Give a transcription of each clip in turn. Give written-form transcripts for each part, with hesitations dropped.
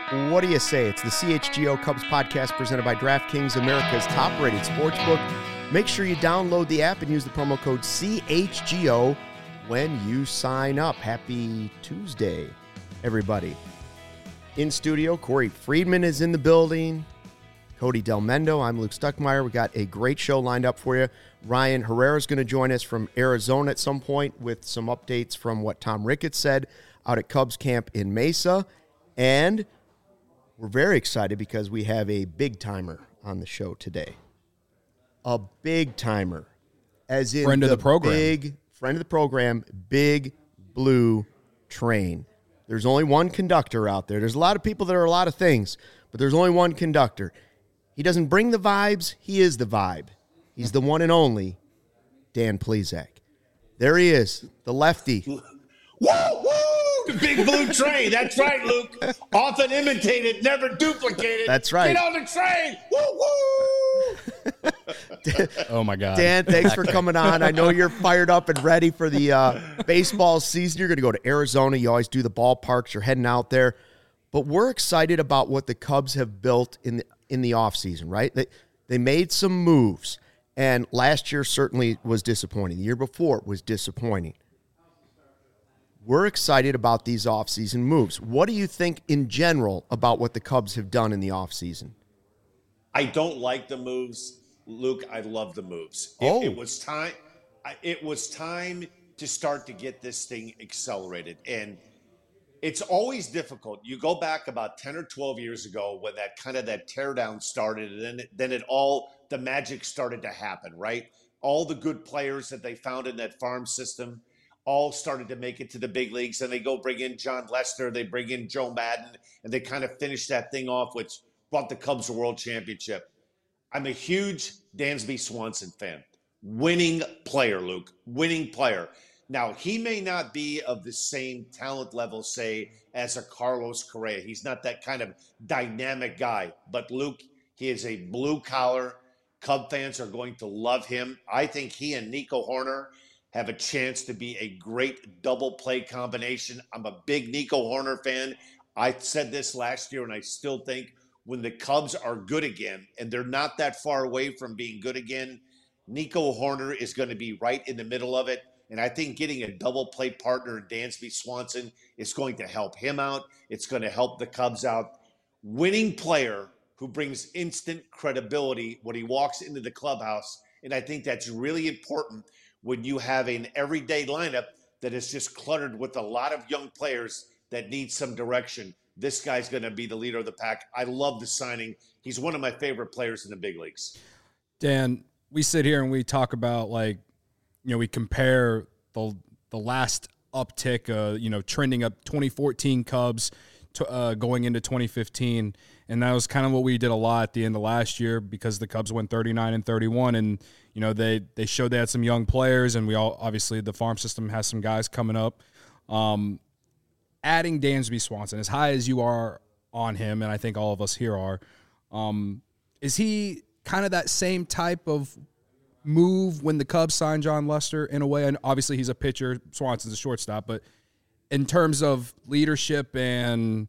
What do you say? It's the CHGO Cubs podcast presented by DraftKings, America's top-rated sportsbook. Make sure you download the app and use the promo code CHGO when you sign up. Happy Tuesday, everybody. In studio, Corey Friedman is in the building. Cody Del Mendo. I'm Luke Stuckmeyer. We got a great show lined up for you. Ryan Herrera is going to join us from Arizona at some point with some updates from what Tom Ricketts said out at Cubs camp in Mesa. And we're very excited because we have a big-timer on the show today. A big-timer. As in friend of the program. Big friend of the program, Big Blue Train. There's only one conductor out there. There's a lot of people that are a lot of things, but there's only one conductor. He doesn't bring the vibes. He is the vibe. He's the one and only Dan Plesac. There he is, the lefty. Woo, woo! The Big Blue Train. That's right, Luke. Often imitated, never duplicated. That's right. Get on the train. Woo, woo! Oh, my God. Dan, thanks for coming on. I know you're fired up and ready for the baseball season. You're going to go to Arizona. You always do the ballparks. You're heading out there. But we're excited about what the Cubs have built in the offseason, right? They made some moves, and last year certainly was disappointing. The year before was disappointing. We're excited about these offseason moves. What do you think in general about what the Cubs have done in the offseason? I don't like the moves, Luke. I love the moves. It was time. It was time to start to get this thing accelerated, and it's always difficult. You go back about 10 or 12 years ago when that teardown started, and then the magic started to happen, right? All the good players that they found in that farm system all started to make it to the big leagues, and they go bring in John Lester, they bring in Joe Madden, and they kind of finish that thing off, which brought the Cubs a world championship. I'm a huge Dansby Swanson fan. Winning player, Luke. Winning player. Now, he may not be of the same talent level, say, as a Carlos Correa. He's not that kind of dynamic guy. But, Luke, he is a blue-collar. Cub fans are going to love him. I think he and Nico Hoerner have a chance to be a great double play combination. I'm a big Nico Hoerner fan. I said this last year, and I still think when the Cubs are good again, and they're not that far away from being good again, Nico Hoerner is going to be right in the middle of it. And I think getting a double play partner in Dansby Swanson is going to help him out. It's going to help the Cubs out. Winning player who brings instant credibility when he walks into the clubhouse. And I think that's really important when you have an everyday lineup that is just cluttered with a lot of young players that need some direction. This guy's going to be the leader of the pack. I love the signing. He's one of my favorite players in the big leagues. Dan, we sit here and we talk about, we compare the last uptick, trending up 2014 Cubs to, going into 2015. And that was kind of what we did a lot at the end of last year because the Cubs went 39-31. And, they showed they had some young players, and obviously the farm system has some guys coming up. Adding Dansby Swanson, as high as you are on him, and I think all of us here are, is he kind of that same type of move when the Cubs signed John Lester in a way? And obviously he's a pitcher, Swanson's a shortstop, but in terms of leadership and,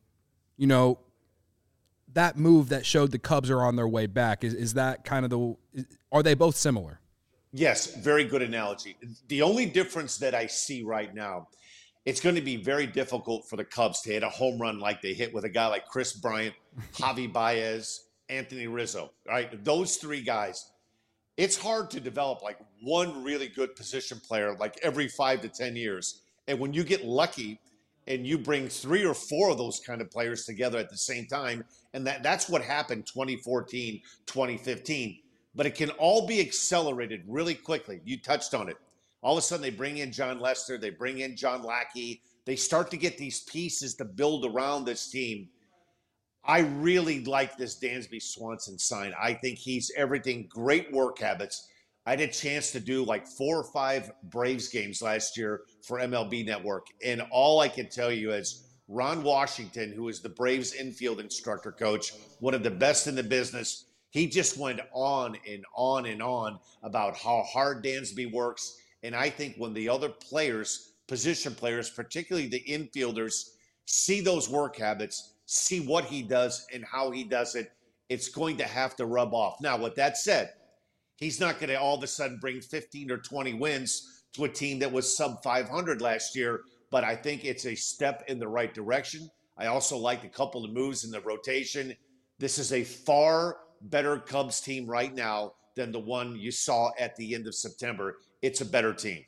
that move that showed the Cubs are on their way back, is that kind of are they both similar? Yes, very good analogy. The only difference that I see right now, it's going to be very difficult for the Cubs to hit a home run like they hit with a guy like Chris Bryant, Javi Baez, Anthony Rizzo, right? Those three guys. It's hard to develop like one really good position player like every 5 to 10 years. And when you get lucky and you bring 3 or 4 of those kind of players together at the same time, and that's what happened 2014, 2015. But it can all be accelerated really quickly. You touched on it. All of a sudden they bring in John Lester, they bring in John Lackey. They start to get these pieces to build around this team. I really like this Dansby Swanson sign. I think he's everything. Great work habits. I had a chance to do like 4 or 5 Braves games last year for MLB Network. And all I can tell you is Ron Washington, who is the Braves infield instructor coach, one of the best in the business, he just went on and on and on about how hard Dansby works. And I think when the other players, position players, particularly the infielders, see those work habits, see what he does and how he does it. It's going to have to rub off. Now, with that said, he's not going to all of a sudden bring 15 or 20 wins to a team that was sub 500 last year, but I think it's a step in the right direction. I also like a couple of moves in the rotation. This is a far better Cubs team right now than the one you saw at the end of September. It's a better team.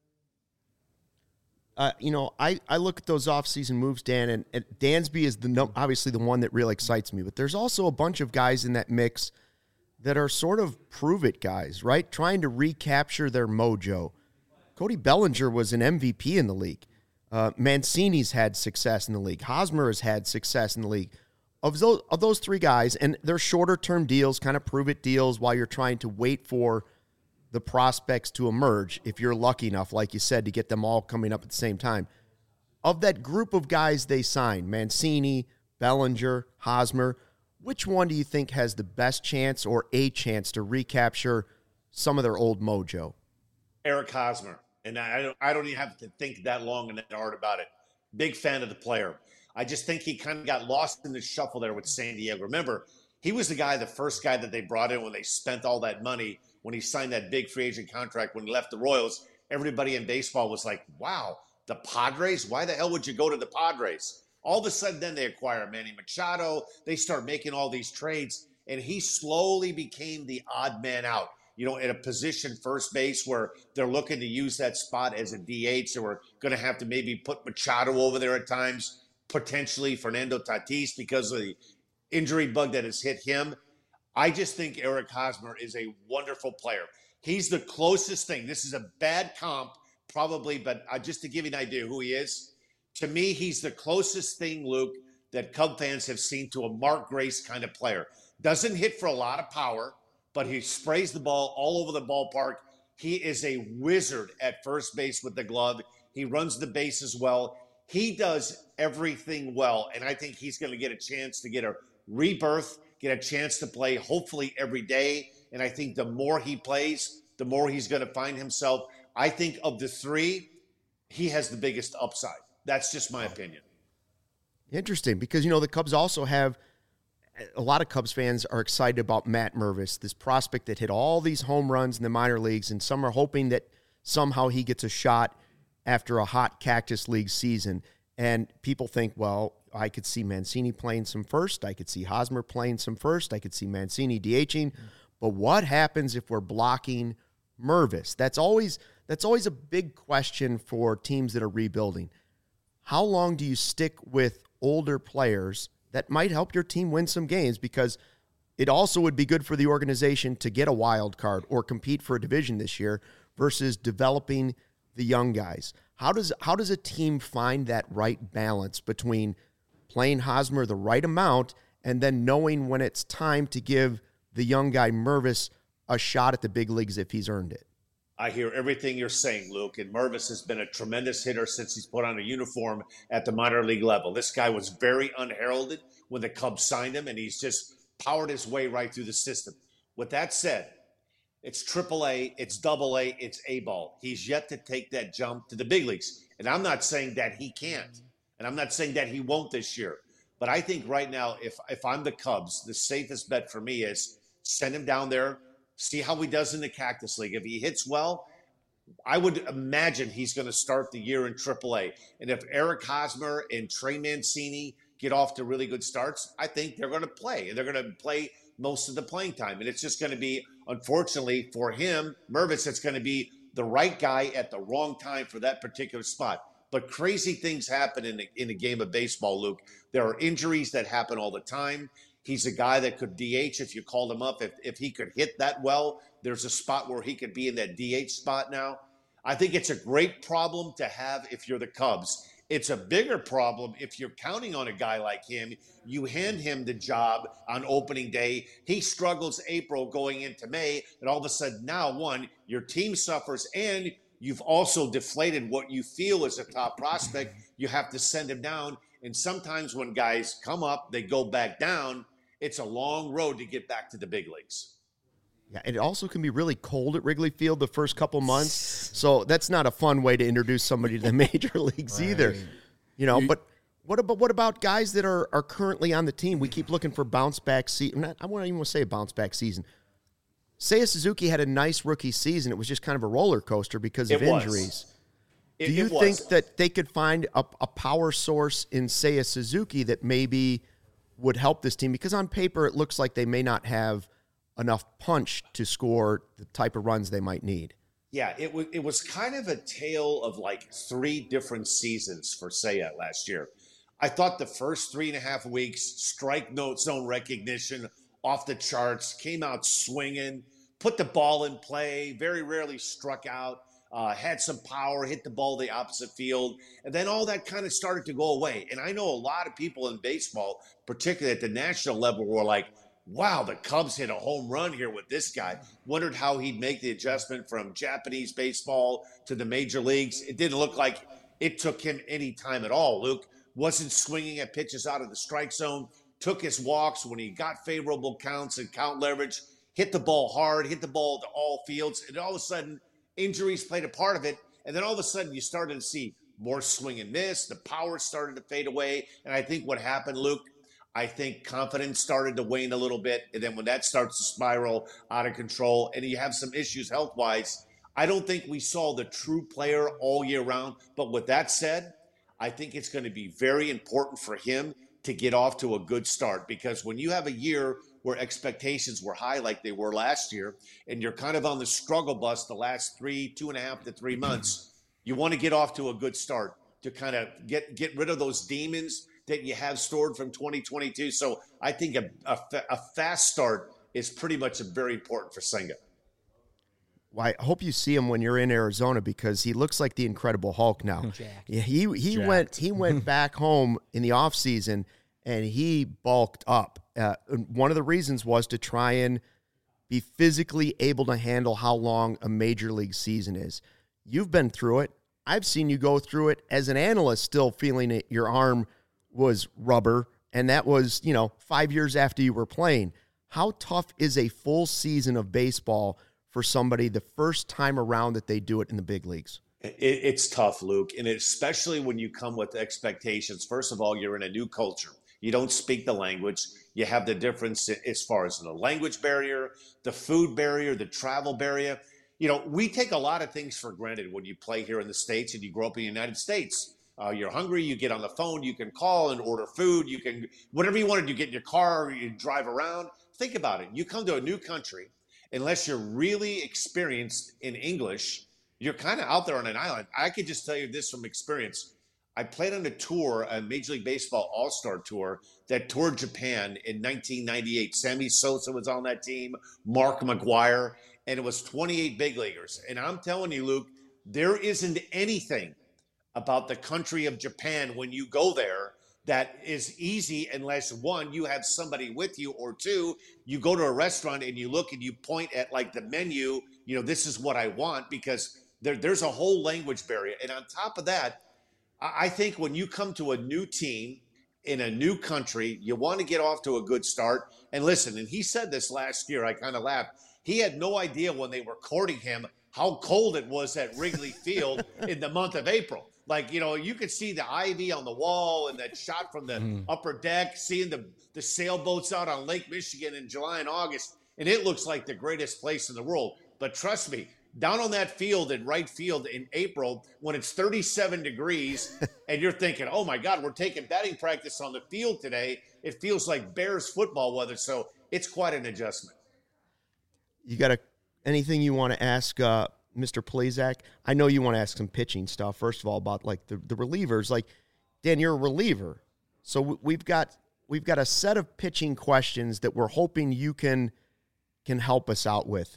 I look at those offseason moves, Dan, and Dansby is obviously the one that really excites me. But there's also a bunch of guys in that mix that are sort of prove-it guys, right? Trying to recapture their mojo. Cody Bellinger was an MVP in the league. Mancini's had success in the league. Hosmer has had success in the league. Of those three guys, and they're shorter-term deals, kind of prove-it deals while you're trying to wait for the prospects to emerge, if you're lucky enough, like you said, to get them all coming up at the same time. Of that group of guys they signed, Mancini, Bellinger, Hosmer, which one do you think has the best chance or a chance to recapture some of their old mojo? Eric Hosmer. And I don't even have to think that long and that hard about it. Big fan of the player. I just think he kind of got lost in the shuffle there with San Diego. Remember, he was the first guy that they brought in when they spent all that money, when he signed that big free agent contract, when he left the Royals. Everybody in baseball was like, wow, the Padres? Why the hell would you go to the Padres? All of a sudden, then they acquire Manny Machado. They start making all these trades, and he slowly became the odd man out. In a position first base where they're looking to use that spot as a DH. So we're going to have to maybe put Machado over there at times, potentially Fernando Tatis because of the injury bug that has hit him. I just think Eric Hosmer is a wonderful player. He's the closest thing. This is a bad comp, probably, but just to give you an idea who he is, to me, he's the closest thing, Luke, that Cub fans have seen to a Mark Grace kind of player. Doesn't hit for a lot of power, but he sprays the ball all over the ballpark. He is a wizard at first base with the glove. He runs the bases well. He does everything well, and I think he's going to get a chance to get a rebirth, get a chance to play hopefully every day. And I think the more he plays, the more he's going to find himself. I think of the three, he has the biggest upside. That's just my opinion. Interesting, because, the Cubs also have a lot of Cubs fans are excited about Matt Mervis, this prospect that hit all these home runs in the minor leagues, and some are hoping that somehow he gets a shot after a hot Cactus League season. And people think, well, I could see Mancini playing some first. I could see Hosmer playing some first. I could see Mancini DHing. But what happens if we're blocking Mervis? That's always a big question for teams that are rebuilding. How long do you stick with older players that might help your team win some games? Because it also would be good for the organization to get a wild card or compete for a division this year versus developing the young guys. How does a team find that right balance between playing Hosmer the right amount and then knowing when it's time to give the young guy Mervis a shot at the big leagues if he's earned it? I hear everything you're saying, Luke, and Mervis has been a tremendous hitter since he's put on a uniform at the minor league level. This guy was very unheralded when the Cubs signed him, and he's just powered his way right through the system. With that said, it's AAA, it's AA, it's A-ball. He's yet to take that jump to the big leagues. And I'm not saying that he can't, and I'm not saying that he won't this year. But I think right now, if I'm the Cubs, the safest bet for me is send him down there, see how he does in the Cactus League. If he hits well, I would imagine he's going to start the year in AAA. And if Eric Hosmer and Trey Mancini get off to really good starts, I think they're going to play. And they're going to play most of the playing time. And it's just going to be, unfortunately for him, Mervis, it's going to be the right guy at the wrong time for that particular spot. But crazy things happen in a game of baseball, Luke. There are injuries that happen all the time. He's a guy that could DH if you called him up. If he could hit that well, there's a spot where he could be in that DH spot now. I think it's a great problem to have if you're the Cubs. It's a bigger problem if you're counting on a guy like him. You hand him the job on opening day. He struggles April going into May, and all of a sudden now, your team suffers, and you've also deflated what you feel is a top prospect. You have to send him down. And sometimes when guys come up, they go back down. It's a long road to get back to the big leagues. Yeah, and it also can be really cold at Wrigley Field the first couple months. So that's not a fun way to introduce somebody to the major leagues either. But What about guys that are currently on the team? We keep looking for bounce back season. I won't even say a bounce back season. Seiya Suzuki had a nice rookie season. It was just kind of a roller coaster because of injuries. Do you think that they could find a power source in Seiya Suzuki that maybe would help this team? Because on paper, it looks like they may not have enough punch to score the type of runs they might need. Yeah, it was kind of a tale of like 3 different seasons for Seiya last year. I thought the first 3.5 weeks, strike note zone recognition off the charts, came out swinging, put the ball in play, very rarely struck out, had some power, hit the ball the opposite field, and then all that kind of started to go away. And I know a lot of people in baseball, particularly at the national level, were like, wow, the Cubs hit a home run here with this guy. Wondered how he'd make the adjustment from Japanese baseball to the major leagues. It didn't look like it took him any time at all, Luke. Wasn't swinging at pitches out of the strike zone, took his walks when he got favorable counts and count leverage, hit the ball hard, hit the ball to all fields, and all of a sudden, injuries played a part of it. And then all of a sudden, you started to see more swing and miss. The power started to fade away. And I think what happened, Luke, I think confidence started to wane a little bit. And then when that starts to spiral out of control and you have some issues health-wise, I don't think we saw the true player all year round. But with that said, I think it's going to be very important for him to get off to a good start, because when you have a year where expectations were high like they were last year, and you're kind of on the struggle bus the last 2.5 to 3 months, you want to get off to a good start to kind of get rid of those demons that you have stored from 2022. So I think a fast start is pretty much very important for Senga. Well, I hope you see him when you're in Arizona, because he looks like the Incredible Hulk now. Yeah, he went back home in the offseason and he bulked up. One of the reasons was to try and be physically able to handle how long a major league season is. You've been through it. I've seen you go through it as an analyst, still feeling it. Your arm was rubber, and that was, 5 years after you were playing. How tough is a full season of baseball for somebody the first time around that they do it in the big leagues? It's tough, Luke, and especially when you come with expectations. First of all, you're in a new culture. You don't speak the language. You have the difference as far as the language barrier, the food barrier, the travel barrier. We take a lot of things for granted when you play here in the States and you grow up in the United States. You're hungry, you get on the phone, you can call and order food, you can, whatever you want to do, get in your car, you drive around. Think about it. You come to a new country, unless you're really experienced in English, you're kind of out there on an island. I could just tell you this from experience. I played on a tour, a Major League Baseball All-Star tour that toured Japan in 1998. Sammy Sosa was on that team, Mark McGwire, and it was 28 big leaguers. And I'm telling you, Luke, there isn't anything about the country of Japan when you go there that is easy unless, one, you have somebody with you, or two, you go to a restaurant and you look and you point at like the menu, this is what I want, because there's a whole language barrier. And on top of that, I think when you come to a new team in a new country, you want to get off to a good start. And listen, and he said this last year, I kind of laughed. He had no idea when they were courting him how cold it was at Wrigley Field in the month of April. Like, you could see the ivy on the wall and that shot from the upper deck, seeing the sailboats out on Lake Michigan in July and August. And it looks like the greatest place in the world. But trust me, down on that field in right field in April, when it's 37 degrees and you're thinking, oh my God, we're taking batting practice on the field today, it feels like Bears football weather. So it's quite an adjustment. You got anything you want to ask Mr. Plesac? I know you want to ask some pitching stuff. First of all, about like the relievers. Like, Dan, you're a reliever, so we've got a set of pitching questions that we're hoping you can help us out with.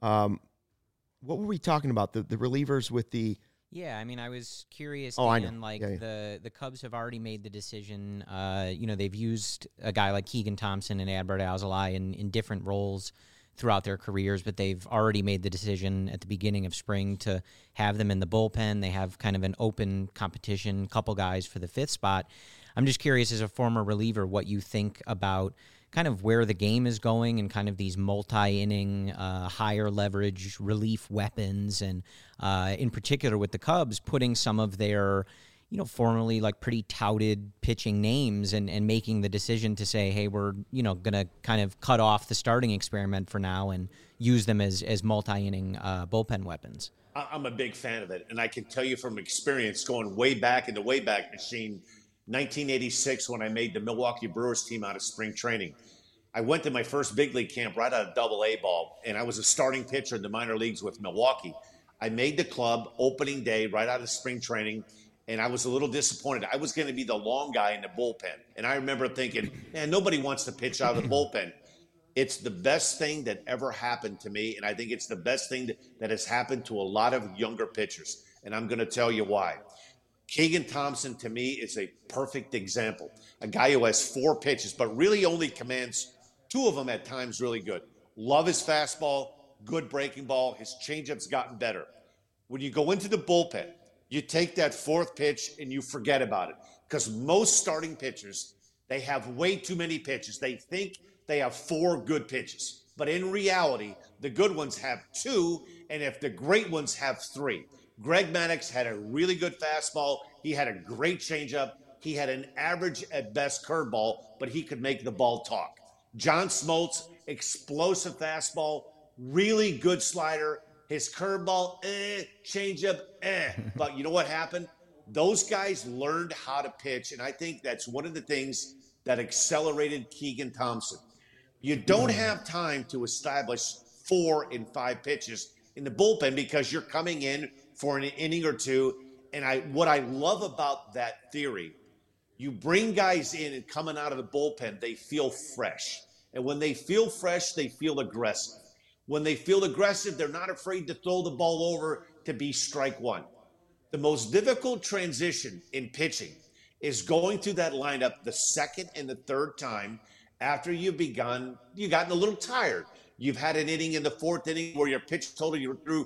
What were we talking about? The relievers with the. Yeah, I mean, I was curious, Dan, I know. The Cubs have already made the decision. They've used a guy like Keegan Thompson and Adbert Alzolay in different roles throughout their careers, but they've already made the decision at the beginning of spring to have them in the bullpen. They have kind of an open competition, couple guys for the fifth spot. I'm just curious, as a former reliever, what you think about kind of where the game is going and kind of these multi-inning, higher leverage relief weapons, and in particular with the Cubs putting some of their formerly like pretty touted pitching names and making the decision to say, hey, we're, going to kind of cut off the starting experiment for now and use them as multi-inning bullpen weapons. I'm a big fan of it. And I can tell you from experience going way back in the Wayback Machine, 1986, when I made the Milwaukee Brewers team out of spring training. I went to my first big league camp right out of Double-A ball, and I was a starting pitcher in the minor leagues with Milwaukee. I made the club opening day right out of spring training, and I was a little disappointed. I was going to be the long guy in the bullpen. And I remember thinking, man, nobody wants to pitch out of the bullpen. It's the best thing that ever happened to me, and I think it's the best thing that has happened to a lot of younger pitchers. And I'm going to tell you why. Keegan Thompson, to me, is a perfect example. A guy who has 4 pitches, but really only commands 2 of them at times really good. Love his fastball, good breaking ball. His changeup's gotten better. When you go into the bullpen, you take that 4th pitch and you forget about it. Because most starting pitchers, they have way too many pitches. They think they have 4 good pitches. But in reality, the good ones have 2, and if the great ones have 3. Greg Maddux had a really good fastball. He had a great changeup. He had an average at best curveball, but he could make the ball talk. John Smoltz, explosive fastball, really good slider. His curveball, changeup, But you know what happened? Those guys learned how to pitch, and I think that's one of the things that accelerated Keegan Thompson. You don't have time to establish 4 and 5 pitches in the bullpen because you're coming in for an inning or 2. And what I love about that theory, you bring guys in and coming out of the bullpen, they feel fresh. And when they feel fresh, they feel aggressive. When they feel aggressive, they're not afraid to throw the ball over to be strike 1. The most difficult transition in pitching is going through that lineup the second and the third time after you've gotten a little tired. You've had an inning in the 4th inning where your pitch total, you threw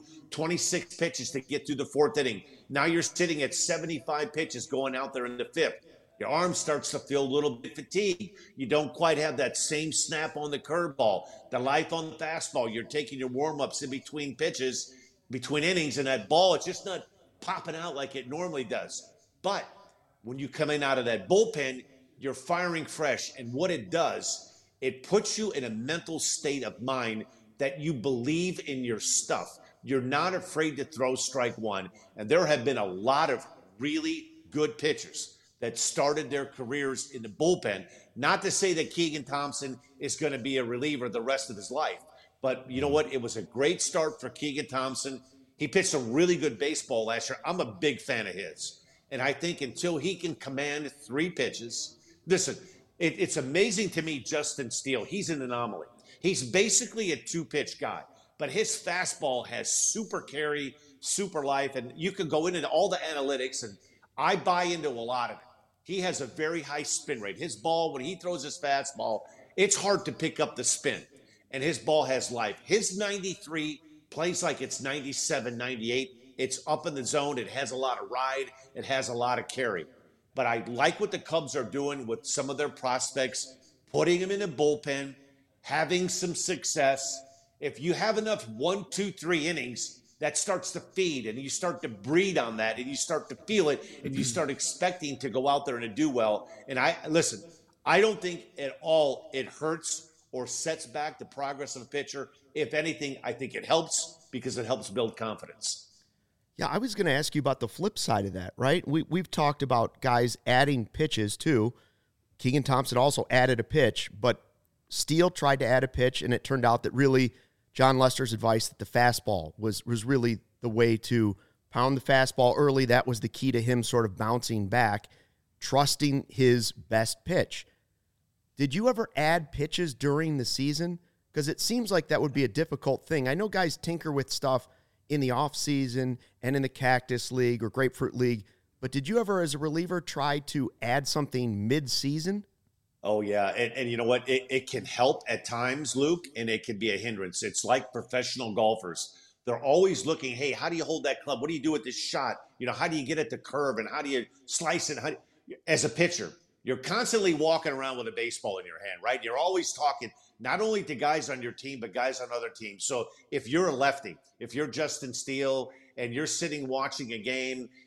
26 pitches to get through the 4th inning. Now you're sitting at 75 pitches going out there in the 5th. Your arm starts to feel a little bit fatigued. You don't quite have that same snap on the curveball, the life on the fastball. You're taking your warm-ups in between pitches, between innings, and that ball, it's just not popping out like it normally does. But when you come in out of that bullpen, you're firing fresh. And what it does, it puts you in a mental state of mind that you believe in your stuff. You're not afraid to throw strike 1. And there have been a lot of really good pitchers that started their careers in the bullpen. Not to say that Keegan Thompson is going to be a reliever the rest of his life. But you know what? It was a great start for Keegan Thompson. He pitched some really good baseball last year. I'm a big fan of his. And I think until he can command 3 pitches, listen, it's amazing to me, Justin Steele. He's an anomaly. He's basically a 2-pitch guy. But his fastball has super carry, super life. And you can go into all the analytics, and I buy into a lot of it. He has a very high spin rate. His ball, when he throws his fastball, it's hard to pick up the spin. And his ball has life. His 93 plays like it's 97, 98. It's up in the zone. It has a lot of ride. It has a lot of carry. But I like what the Cubs are doing with some of their prospects, putting them in the bullpen, having some success. If you have enough 1, 2, 3 innings, that starts to feed, and you start to breed on that, and you start to feel it, and you start expecting to go out there and do well. And I don't think at all it hurts or sets back the progress of a pitcher. If anything, I think it helps because it helps build confidence. Yeah, I was going to ask you about the flip side of that, right? We've talked about guys adding pitches too. Keegan Thompson also added a pitch, but Steele tried to add a pitch, and it turned out that really John Lester's advice that the fastball was really the way to pound the fastball early. That was the key to him sort of bouncing back, trusting his best pitch. Did you ever add pitches during the season? Because it seems like that would be a difficult thing. I know guys tinker with stuff in the offseason and in the Cactus League or Grapefruit League, but did you ever, as a reliever, try to add something mid-season? Oh, yeah. And you know what? It can help at times, Luke, and it can be a hindrance. It's like professional golfers. They're always looking, hey, how do you hold that club? What do you do with this shot? You know, how do you get at the curve, and how do you slice it? As a pitcher, you're constantly walking around with a baseball in your hand, right? You're always talking not only to guys on your team, but guys on other teams. So if you're a lefty, if you're Justin Steele and you're sitting watching a game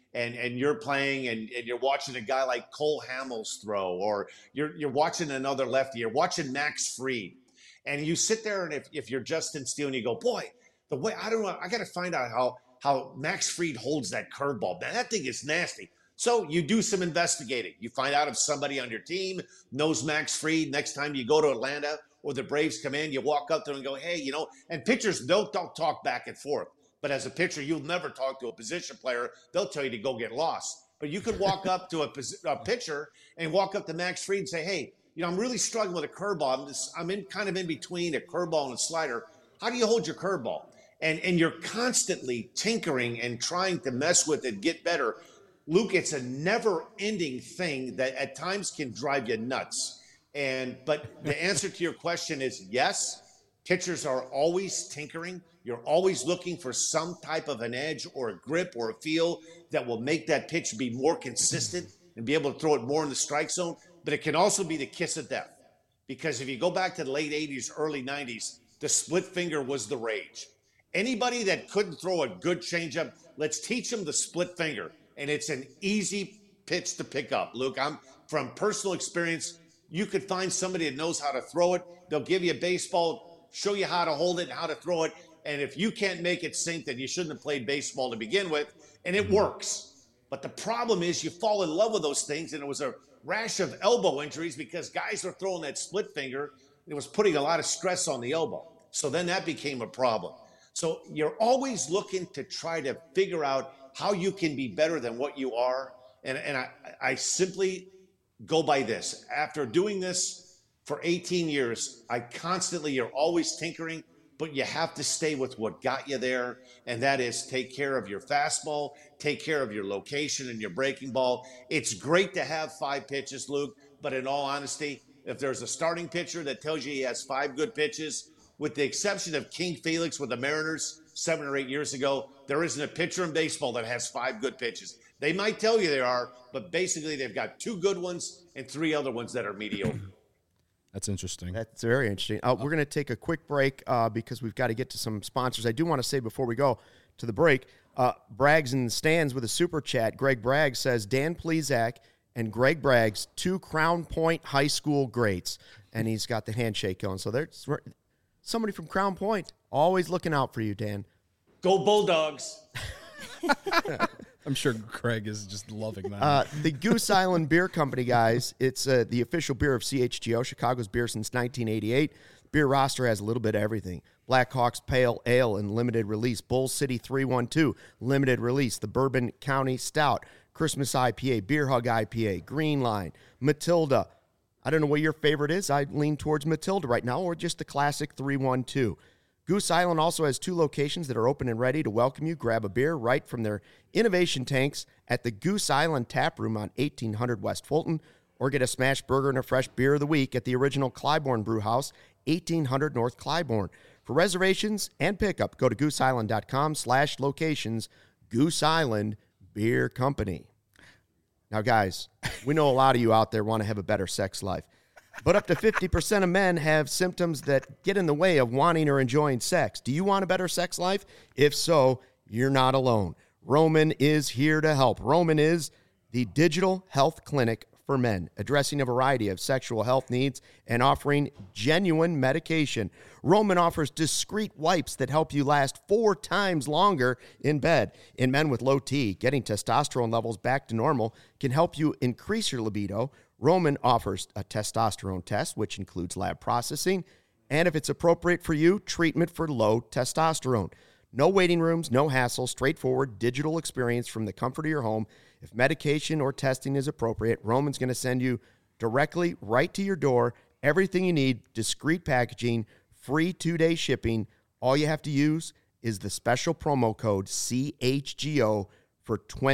and you're playing and you're watching a guy like Cole Hamels throw, or you're watching another lefty, you're watching Max Fried, and you sit there and if you're Justin Steele and you go, boy, the way I don't know, I got to find out how Max Fried holds that curveball. Man, that thing is nasty. So you do some investigating. You find out if somebody on your team knows Max Fried. Next time you go to Atlanta or the Braves come in, you walk up there and go, hey, and pitchers don't talk back and forth. But as a pitcher, you'll never talk to a position player. They'll tell you to go get lost. But you could walk up to a pitcher and walk up to Max Fried and say, hey, I'm really struggling with a curveball. I'm kind of in between a curveball and a slider. How do you hold your curveball? And you're constantly tinkering and trying to mess with it, get better. Luke, it's a never-ending thing that at times can drive you nuts. But the answer to your question is yes. Pitchers are always tinkering. You're always looking for some type of an edge or a grip or a feel that will make that pitch be more consistent and be able to throw it more in the strike zone. But it can also be the kiss of death. Because if you go back to the late 80s, early 90s, the split finger was the rage. Anybody that couldn't throw a good changeup, let's teach them the split finger. And it's an easy pitch to pick up. Luke, I'm from personal experience. You could find somebody that knows how to throw it. They'll give you a baseball, show you how to hold it and how to throw it. And if you can't make it sink, then you shouldn't have played baseball to begin with. And it works. But the problem is you fall in love with those things. And it was a rash of elbow injuries because guys were throwing that split finger. It was putting a lot of stress on the elbow. So then that became a problem. So you're always looking to try to figure out how you can be better than what you are. And I simply go by this. After doing this for 18 years, you're always tinkering, but you have to stay with what got you there. And that is take care of your fastball, take care of your location and your breaking ball. It's great to have 5 pitches, Luke, but in all honesty, if there's a starting pitcher that tells you he has 5 good pitches, with the exception of King Felix with the Mariners 7 or 8 years ago, there isn't a pitcher in baseball that has 5 good pitches. They might tell you they are, but basically they've got 2 good ones and 3 other ones that are mediocre. That's interesting. That's very interesting. We're going to take a quick break because we've got to get to some sponsors. I do want to say before we go to the break, Braggs in the stands with a super chat. Greg Braggs says, Dan Plesac and Greg Braggs, 2 Crown Point High School greats. And he's got the handshake going. So there's somebody from Crown Point always looking out for you, Dan. Go Bulldogs. I'm sure Craig is just loving that. The Goose Island Beer Company, guys, it's the official beer of CHGO, Chicago's beer since 1988. Beer roster has a little bit of everything. Blackhawks Pale Ale and limited release. Bull City 312, limited release. The Bourbon County Stout, Christmas IPA, Beer Hug IPA, Green Line, Matilda. I don't know what your favorite is. I lean towards Matilda right now, or just the classic 312. Goose Island also has 2 locations that are open and ready to welcome you. Grab a beer right from their innovation tanks at the Goose Island Tap Room on 1800 West Fulton, or get a smash burger and a fresh beer of the week at the original Clybourne Brew House, 1800 North Clybourne. For reservations and pickup, go to gooseisland.com/locations, Goose Island Beer Company. Now, guys, we know a lot of you out there want to have a better sex life. But up to 50% of men have symptoms that get in the way of wanting or enjoying sex. Do you want a better sex life? If so, you're not alone. Roman is here to help. Roman is the digital health clinic for men, addressing a variety of sexual health needs and offering genuine medication. Roman offers discreet wipes that help you last 4 times longer in bed. In men with low T, getting testosterone levels back to normal can help you increase your libido. Roman offers a testosterone test, which includes lab processing, and if it's appropriate for you, treatment for low testosterone. No waiting rooms, no hassle, straightforward digital experience from the comfort of your home. If medication or testing is appropriate, Roman's going to send you directly right to your door. Everything you need, discreet packaging, free 2-day shipping. All you have to use is the special promo code CHGO for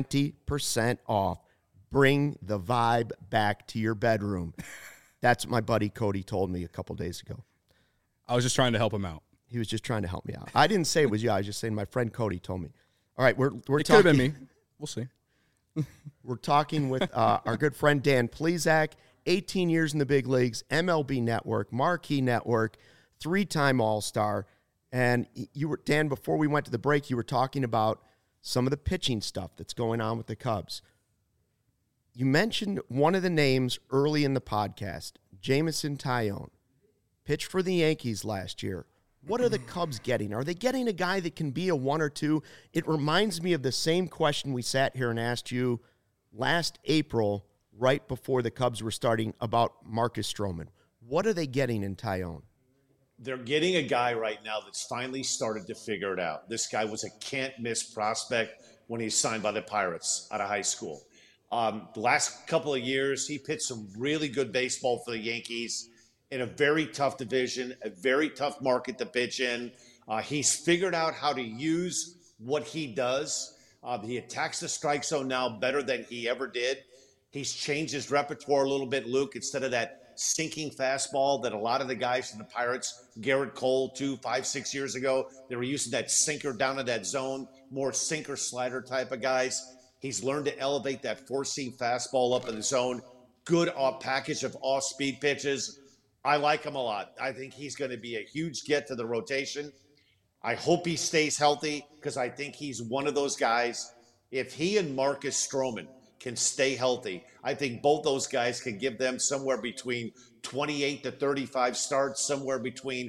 20% off. Bring the vibe back to your bedroom. That's what my buddy Cody told me a couple days ago. I was just trying to help him out. He was just trying to help me out. I didn't say it was you. I was just saying my friend Cody told me. All right, we're it talking. Could have been me. We'll see. We're talking with our good friend Dan Plesac, 18 years in the big leagues, MLB Network, Marquee Network, 3-time All-Star. And you were, Dan, before we went to the break, you were talking about some of the pitching stuff that's going on with the Cubs. You mentioned one of the names early in the podcast, Jameson Taillon. Pitched for the Yankees last year. What are the Cubs getting? Are they getting a guy that can be a 1 or 2? It reminds me of the same question we sat here and asked you last April, right before the Cubs were starting, about Marcus Stroman. What are they getting in Taillon? They're getting a guy right now that's finally started to figure it out. This guy was a can't-miss prospect when he signed by the Pirates out of high school. The last couple of years, he pitched some really good baseball for the Yankees in a very tough division, a very tough market to pitch in. He's figured out how to use what he does. He attacks the strike zone now better than he ever did. He's changed his repertoire a little bit, Luke. Instead of that sinking fastball that a lot of the guys in the Pirates, Garrett Cole 2, 5, 6 years ago, they were using that sinker down in that zone, more sinker slider type of guys. He's learned to elevate that four-seam fastball up in the zone. Good package of off-speed pitches. I like him a lot. I think he's going to be a huge get to the rotation. I hope he stays healthy because I think he's one of those guys. If he and Marcus Stroman can stay healthy, I think both those guys can give them somewhere between 28 to 35 starts, somewhere between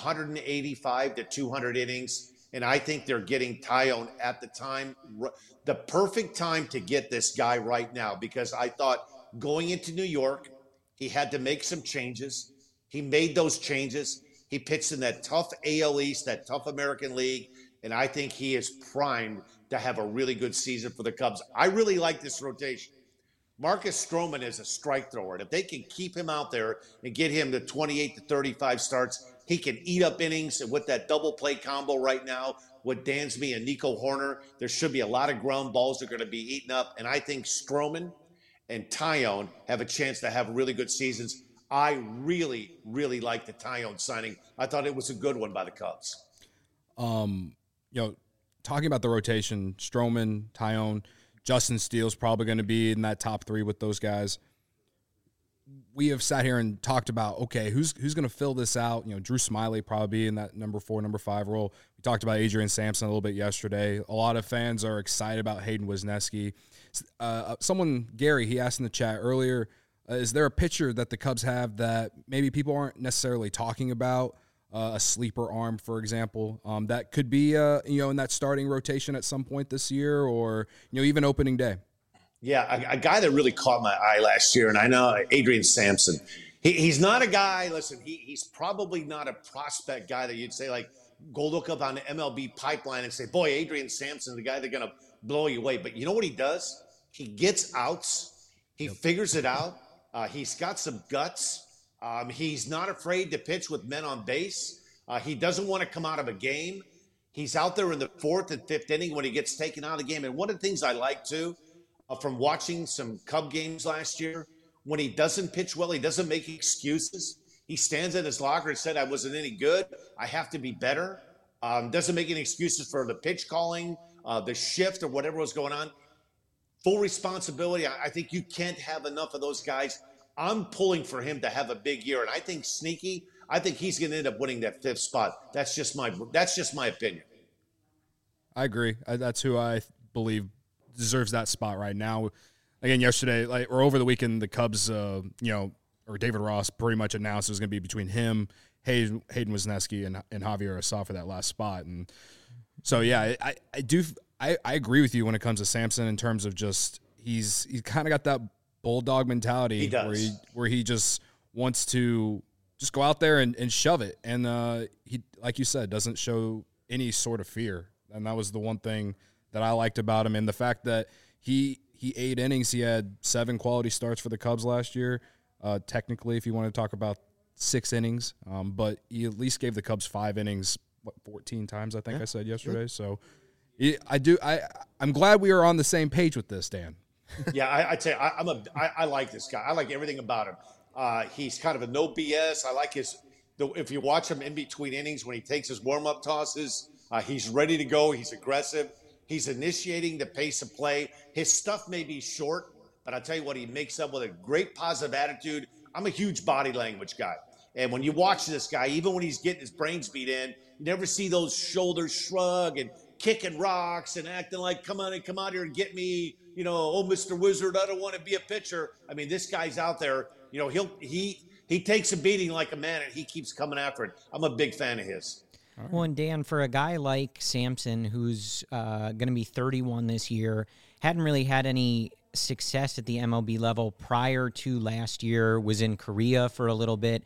185 to 200 innings. And I think they're getting Taillon at the time, the perfect time to get this guy right now, because I thought going into New York, he had to make some changes. He made those changes. He pitched in that tough AL East, that tough American League, and I think he is primed to have a really good season for the Cubs. I really like this rotation. Marcus Stroman is a strike thrower, and if they can keep him out there and get him to 28 to 35 starts, he can eat up innings. And with that double play combo right now with Dansby and Nico Horner, there should be a lot of ground balls that are going to be eaten up. And I think Stroman and Taillon have a chance to have really good seasons. I really, really like the Taillon signing. I thought it was a good one by the Cubs. Talking about the rotation, Stroman, Taillon, Justin Steele's probably going to be in that top 3 with those guys. We have sat here and talked about, okay, who's going to fill this out? Drew Smyly probably in that number 4, number 5 role. We talked about Adrian Sampson a little bit yesterday. A lot of fans are excited about Hayden Wesneski. Gary, he asked in the chat earlier, is there a pitcher that the Cubs have that maybe people aren't necessarily talking about, a sleeper arm, for example, that could be, in that starting rotation at some point this year or, even opening day? Yeah, a guy that really caught my eye last year, and I know Adrian Sampson. He's not a guy, listen, he's probably not a prospect guy that you'd say, like, go look up on the MLB pipeline and say, boy, Adrian Sampson, the guy that's going to blow you away. But you know what he does? He gets outs. He figures it out. He's got some guts. He's not afraid to pitch with men on base. He doesn't want to come out of a game. He's out there in the 4th and 5th inning when he gets taken out of the game. And one of the things I like, too, from watching some Cub games last year, when he doesn't pitch well, he doesn't make excuses. He stands at his locker and said, I wasn't any good. I have to be better. Doesn't make any excuses for the pitch calling, the shift or whatever was going on. Full responsibility. I think you can't have enough of those guys. I'm pulling for him to have a big year. And I think Sneaky, I think he's going to end up winning that 5th spot. That's just my opinion. I agree. That's who I believe deserves that spot right now. Again, yesterday, or over the weekend, the Cubs, or David Ross pretty much announced it was going to be between him, Hayden Wesneski, and Javier Assaf for that last spot. And so, yeah, I agree with you when it comes to Sampson in terms of just he's kind of got that bulldog mentality. He does. Where he just wants to just go out there and shove it. And he, like you said, doesn't show any sort of fear. And that was the one thing that I liked about him. And the fact that he 8 innings, he had 7 quality starts for the Cubs last year. Technically, if you want to talk about 6 innings, but he at least gave the Cubs 5 innings, 14 times, I think I said yesterday. So I'm glad we are on the same page with this, Dan. Yeah, I'd say I like this guy. I like everything about him. He's kind of a no BS. I like if you watch him in between innings when he takes his warm-up tosses, he's ready to go. He's aggressive. He's initiating the pace of play. His stuff may be short, but I'll tell you what, he makes up with a great positive attitude. I'm a huge body language guy. And when you watch this guy, even when he's getting his brains beat in, you never see those shoulders shrug and kicking rocks and acting like, come out here and get me, oh, Mr. Wizard, I don't want to be a pitcher. I mean, this guy's out there, he takes a beating like a man, and he keeps coming after it. I'm a big fan of his. Well, and Dan, for a guy like Sampson, who's going to be 31 this year, hadn't really had any success at the MLB level prior to last year, was in Korea for a little bit.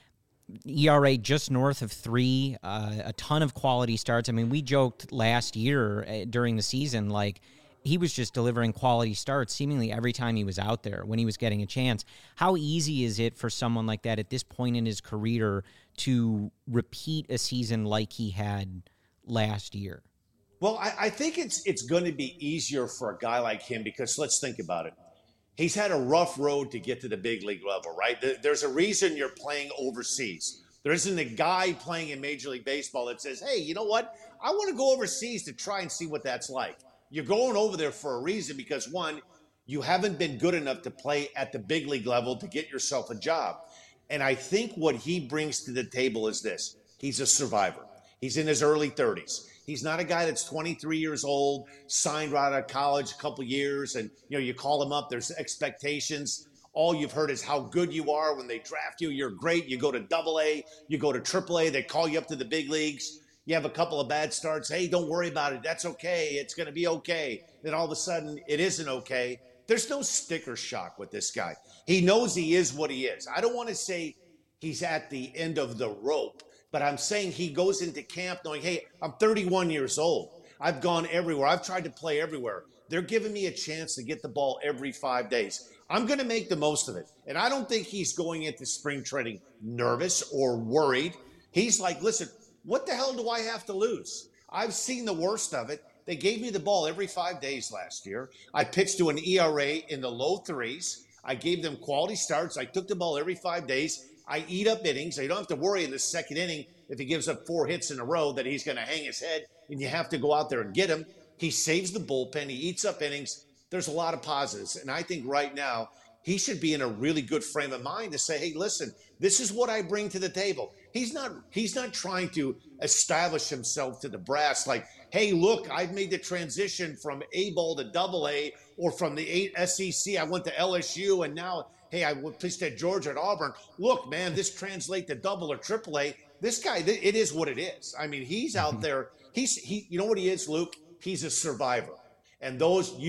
ERA just north of 3, a ton of quality starts. I mean, we joked last year during the season, like, he was just delivering quality starts seemingly every time he was out there when he was getting a chance. How easy is it for someone like that at this point in his career to repeat a season like he had last year? Well, I think it's going to be easier for a guy like him because let's think about it. He's had a rough road to get to the big league level, right? There's a reason you're playing overseas. There isn't a guy playing in Major League Baseball that says, hey, you know what? I want to go overseas to try and see what that's like. You're going over there for a reason because, one, you haven't been good enough to play at the big league level to get yourself a job. And I think what he brings to the table is this. He's a survivor. He's in his early 30s. He's not a guy that's 23 years old, signed right out of college a couple years, and you call him up, there's expectations. All you've heard is how good you are when they draft you. You're great. You go to AA, you go to AAA, they call you up to the big leagues. You have a couple of bad starts. Hey, don't worry about it. That's okay. It's going to be okay. Then all of a sudden, it isn't okay. There's no sticker shock with this guy. He knows he is what he is. I don't want to say he's at the end of the rope, but I'm saying he goes into camp knowing, hey, I'm 31 years old. I've gone everywhere. I've tried to play everywhere. They're giving me a chance to get the ball every 5 days. I'm going to make the most of it. And I don't think he's going into spring training nervous or worried. He's like, listen, what the hell do I have to lose? I've seen the worst of it. They gave me the ball every 5 days last year. I pitched to an ERA in the low 3s. I gave them quality starts. I took the ball every 5 days. I eat up innings. So you don't have to worry in the second inning if he gives up 4 hits in a row that he's going to hang his head and you have to go out there and get him. He saves the bullpen. He eats up innings. There's a lot of positives. And I think right now he should be in a really good frame of mind to say, hey, listen, this is what I bring to the table. He's not trying to establish himself to the brass like, hey, look, I've made the transition from A ball to AA, or from the SEC, I went to LSU, and now, hey, I pitched at Georgia and Auburn. Look, man, this translates to double or AAA. This guy, it is what it is. I mean, he's out there. You know what he is, Luke? He's a survivor. And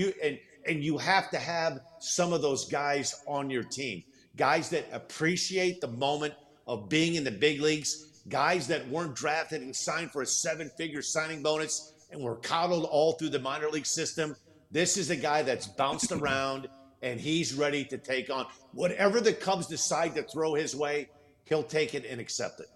you have to have some of those guys on your team, guys that appreciate the moment of being in the big leagues, guys that weren't drafted and signed for a 7-figure signing bonus and were coddled all through the minor league system. This is a guy that's bounced around, and he's ready to take on whatever the Cubs decide to throw his way. He'll take it and accept it.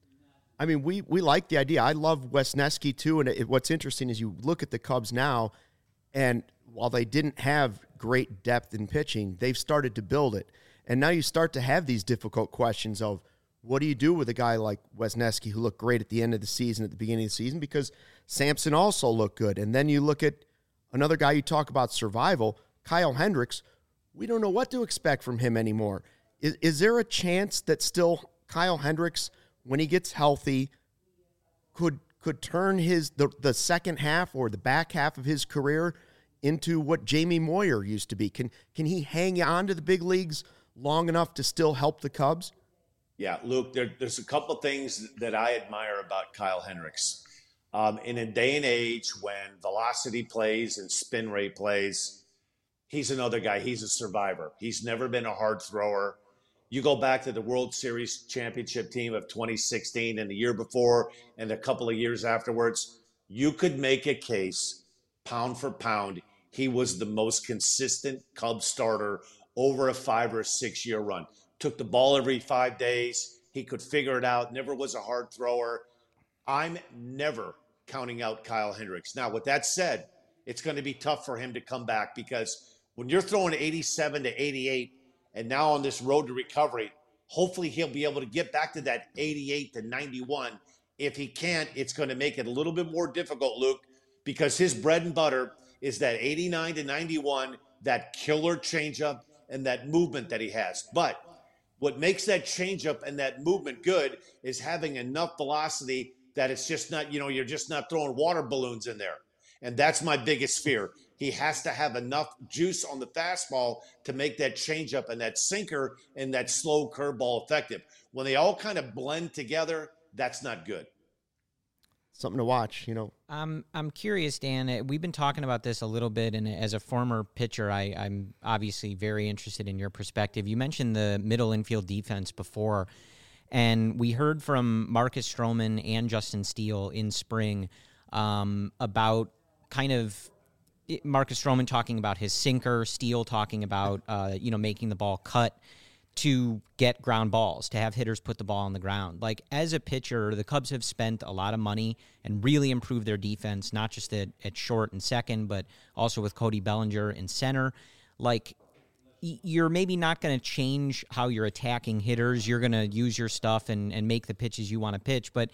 I mean, we like the idea. I love Wesneski too, and what's interesting is you look at the Cubs now, and while they didn't have great depth in pitching, they've started to build it. And now you start to have these difficult questions of what do you do with a guy like Wesneski who looked great at the end of the season, at the beginning of the season, because Sampson also looked good. And then you look at another guy you talk about survival, Kyle Hendricks. We don't know what to expect from him anymore. Is there a chance that still Kyle Hendricks, when he gets healthy, could turn the second half or the back half of his career into what Jamie Moyer used to be? Can he hang on to the big leagues long enough to still help the Cubs? Yeah, Luke, there's a couple things that I admire about Kyle Hendricks. In a day and age when velocity plays and spin rate plays, he's another guy. He's a survivor. He's never been a hard thrower. You go back to the World Series championship team of 2016 and the year before and a couple of years afterwards, you could make a case, pound for pound, he was the most consistent Cubs starter over a 5 or 6 year run. Took the ball every 5 days. He could figure it out. Never was a hard thrower. I'm never counting out Kyle Hendricks. Now, with that said, it's going to be tough for him to come back because when you're throwing 87 to 88 and now on this road to recovery, hopefully he'll be able to get back to that 88 to 91. If he can't, it's going to make it a little bit more difficult, Luke, because his bread and butter is that 89 to 91, that killer changeup and that movement that he has. But what makes that changeup and that movement good is having enough velocity that it's just not, you're just not throwing water balloons in there. And that's my biggest fear. He has to have enough juice on the fastball to make that changeup and that sinker and that slow curveball effective. When they all kind of blend together, that's not good. Something to watch, I'm curious, Dan. We've been talking about this a little bit, and as a former pitcher, I'm obviously very interested in your perspective. You mentioned the middle infield defense before, and we heard from Marcus Stroman and Justin Steele in spring about kind of Marcus Stroman talking about his sinker, Steele talking about making the ball cut to get ground balls, to have hitters put the ball on the ground. Like, as a pitcher, the Cubs have spent a lot of money and really improved their defense, not just at short and second, but also with Cody Bellinger in center. Like, you're maybe not going to change how you're attacking hitters. You're going to use your stuff and make the pitches you want to pitch. But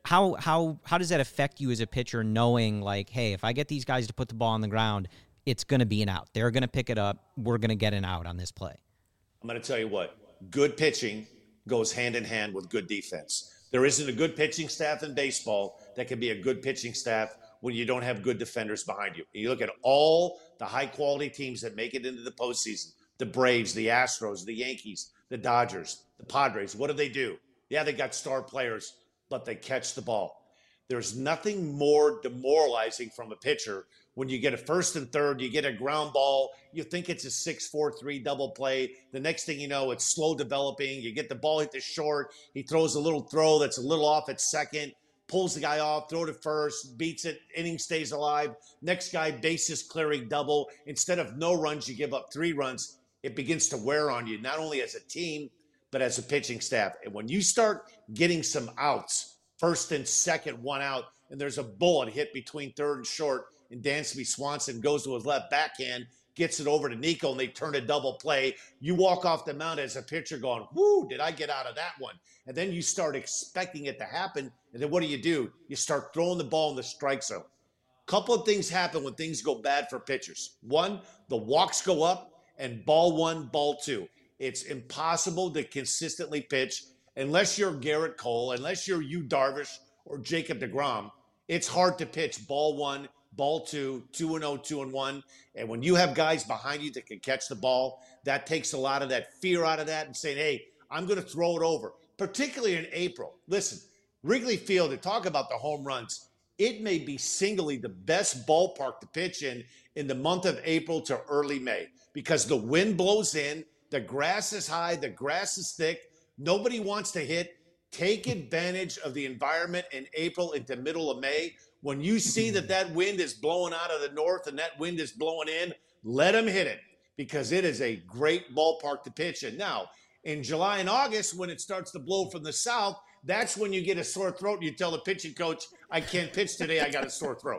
how does that affect you as a pitcher, knowing, like, hey, if I get these guys to put the ball on the ground, it's going to be an out. They're going to pick it up. We're going to get an out on this play. I'm going to tell you what, good pitching goes hand in hand with good defense. There isn't a good pitching staff in baseball that can be a good pitching staff when you don't have good defenders behind you. You look at all the high-quality teams that make it into the postseason, the Braves, the Astros, the Yankees, the Dodgers, the Padres. What do? Yeah, they got star players, but they catch the ball. There's nothing more demoralizing from a pitcher when you get a first and third, you get a ground ball, you think it's a 6-4-3 double play. The next thing you know, it's slow developing. You get the ball hit to short. He throws a little throw that's a little off at second, pulls the guy off, throw to first, beats it, inning stays alive. Next guy, bases clearing double. Instead of no runs, you give up 3 runs. It begins to wear on you, not only as a team, but as a pitching staff. And when you start getting some outs, first and second, 1 out, and there's a bullet hit between third and short, and Dansby Swanson goes to his left backhand, gets it over to Nico, and they turn a double play. You walk off the mound as a pitcher going, whoo, did I get out of that one? And then you start expecting it to happen, and then what do? You start throwing the ball in the strike zone. Couple of things happen when things go bad for pitchers. One, the walks go up, and ball 1, ball 2. It's impossible to consistently pitch unless you're Garrett Cole, unless you're Yu Darvish or Jacob deGrom. It's hard to pitch ball 1, ball 2, 2-0, 2-1. And when you have guys behind you that can catch the ball, that takes a lot of that fear out of that and saying, hey, I'm going to throw it over, particularly in April. Listen, Wrigley Field, to talk about the home runs, it may be singly the best ballpark to pitch in the month of April to early May, because the wind blows in, the grass is high, the grass is thick, nobody wants to hit. Take advantage of the environment in April into middle of May. When you see that wind is blowing out of the north and that wind is blowing in, let them hit it, because it is a great ballpark to pitch in. Now, in July and August, when it starts to blow from the south, that's when you get a sore throat and you tell the pitching coach, I can't pitch today, I got a sore throat.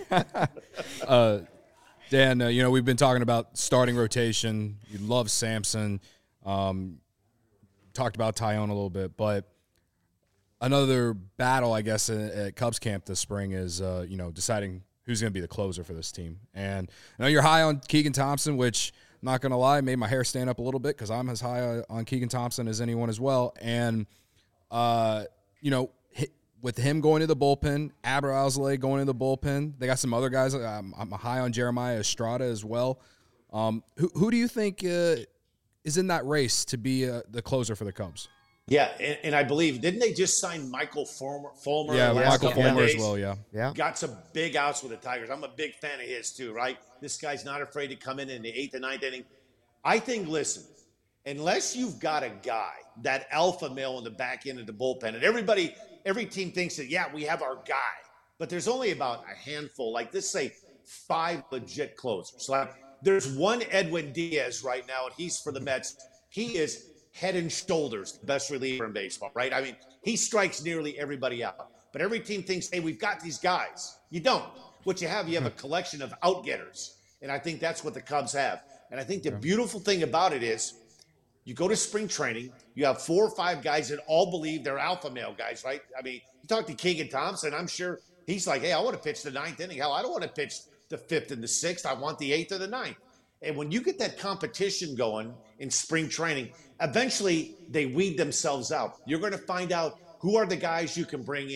Dan, we've been talking about starting rotation. You love Sampson. Talked about Taillon a little bit, but another battle, I guess, at Cubs camp this spring is, deciding who's going to be the closer for this team. And I know you're high on Keegan Thompson, which, I'm not going to lie, made my hair stand up a little bit because I'm as high on Keegan Thompson as anyone as well. And, with him going to the bullpen, Aber Alzolay going to the bullpen, they got some other guys. I'm high on Jeremiah Estrada as well. Who do you think is in that race to be the closer for the Cubs? Yeah, and I believe, didn't they just sign Michael Fulmer? Yeah, Michael Fulmer as well, yeah. Got some big outs with the Tigers. I'm a big fan of his too, right? This guy's not afraid to come in the 8th and 9th inning. I think, listen, unless you've got a guy, that alpha male in the back end of the bullpen, and every team thinks that, yeah, we have our guy, but there's only about a handful, like let's say 5 legit closers. Like there's one Edwin Diaz right now, and he's for the Mets. He is head and shoulders the best reliever in baseball, right? I mean, he strikes nearly everybody out. But every team thinks, hey, we've got these guys. You don't. What you have a collection of out-getters. And I think that's what the Cubs have. And I think the beautiful thing about it is you go to spring training, you have 4 or 5 guys that all believe they're alpha male guys, right? I mean, you talk to Keegan Thompson, I'm sure he's like, hey, I want to pitch the 9th inning. Hell, I don't want to pitch the 5th and the 6th. I want the 8th or the 9th. And when you get that competition going in spring training, eventually they weed themselves out. You're going to find out who are the guys you can bring in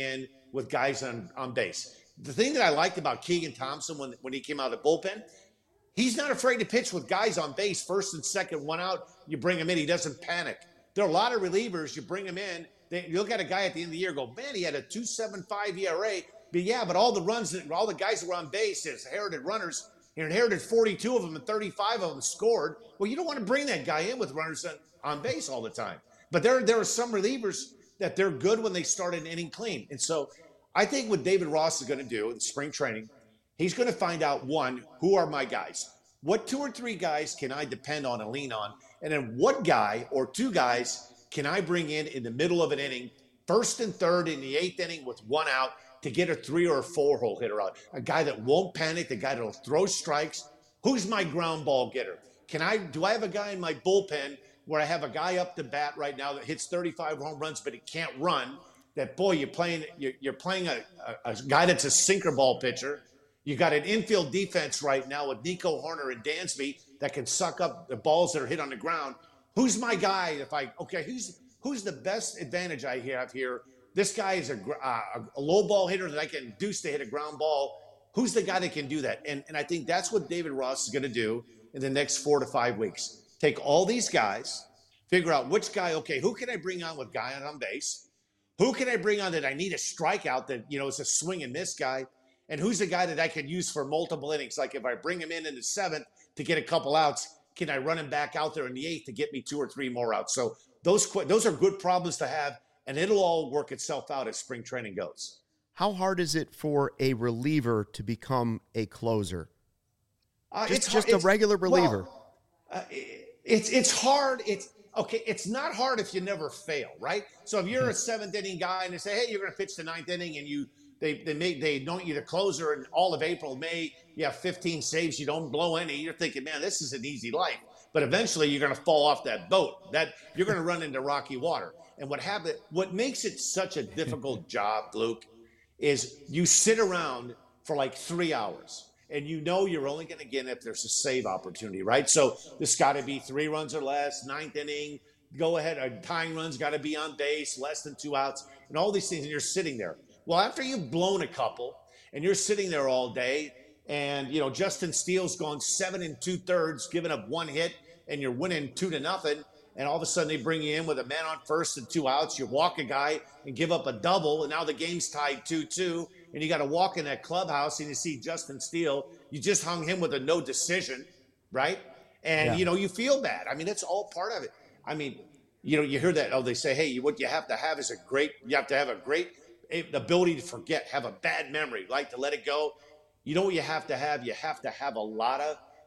with guys on base. The thing that I liked about Keegan Thompson when he came out of the bullpen, he's not afraid to pitch with guys on base, first and second, one out. You bring him in, he doesn't panic. There are a lot of relievers, you bring him in, you look at a guy at the end of the year, go, man, he had a 2.75 ERA. But yeah, but all the guys that were on base, his inherited runners, he inherited 42 of them and 35 of them scored. Well, you don't want to bring that guy in with runners on base all the time. But there are some relievers that they're good when they start an inning clean. And so I think what David Ross is going to do in spring training, he's going to find out, one, who are my guys? What 2 or 3 guys can I depend on and lean on? And then what guy or 2 guys can I bring in the middle of an inning, first and third in the 8th inning with 1 out to get a 3 or a 4-hole hitter out? A guy that won't panic, the guy that'll throw strikes. Who's my ground ball getter? Do I have a guy in my bullpen where I have a guy up to bat right now that hits 35 home runs, but he can't run? That, boy, you're playing a guy that's a sinker ball pitcher. You got an infield defense right now with Nico Horner and Dansby that can suck up the balls that are hit on the ground. Who's my guy? Who's the best advantage I have here? This guy is a low ball hitter that I can induce to hit a ground ball. Who's the guy that can do that? And I think that's what David Ross is going to do in the next 4 to 5 weeks. Take all these guys, figure out which guy, okay, who can I bring on with guy on base? Who can I bring on that I need a strikeout that, is a swing and miss guy? And who's the guy that I could use for multiple innings? Like if I bring him in the 7th to get a couple outs, can I run him back out there in the 8th to get me 2 or 3 more outs? So those are good problems to have, and it'll all work itself out as spring training goes. How hard is it for a reliever to become a closer? It's a regular reliever. Well, it's hard. It's not hard if you never fail, right? So if you're a 7th inning guy and they say, hey, you're going to pitch the 9th inning, and they don't you the closer in all of April, May, you have 15 saves, you don't blow any. You're thinking, man, this is an easy life. But eventually you're going to fall off that boat. That you're going to run into rocky water. And what makes it such a difficult job, Luke, is you sit around for like 3 hours. And you're only going to get it if there's a save opportunity, right? So there's got to be 3 runs or less, 9th inning, go ahead, a tying run's got to be on base, less than 2 outs, and all these things, and you're sitting there. Well, after you've blown a couple, and you're sitting there all day, and, Justin Steele's gone 7 2/3, giving up 1 hit, and you're winning 2-0, and all of a sudden they bring you in with a man on first and 2 outs, you walk a guy and give up a double, and now the game's tied 2-2, and you got to walk in that clubhouse and you see Justin Steele. You just hung him with a no decision, right? And, you feel bad. I mean, it's all part of it. I mean, you hear that, they say, hey, what you have to have is a great ability to forget, have a bad memory, like to let it go. You know what you have to have? You have to have a lot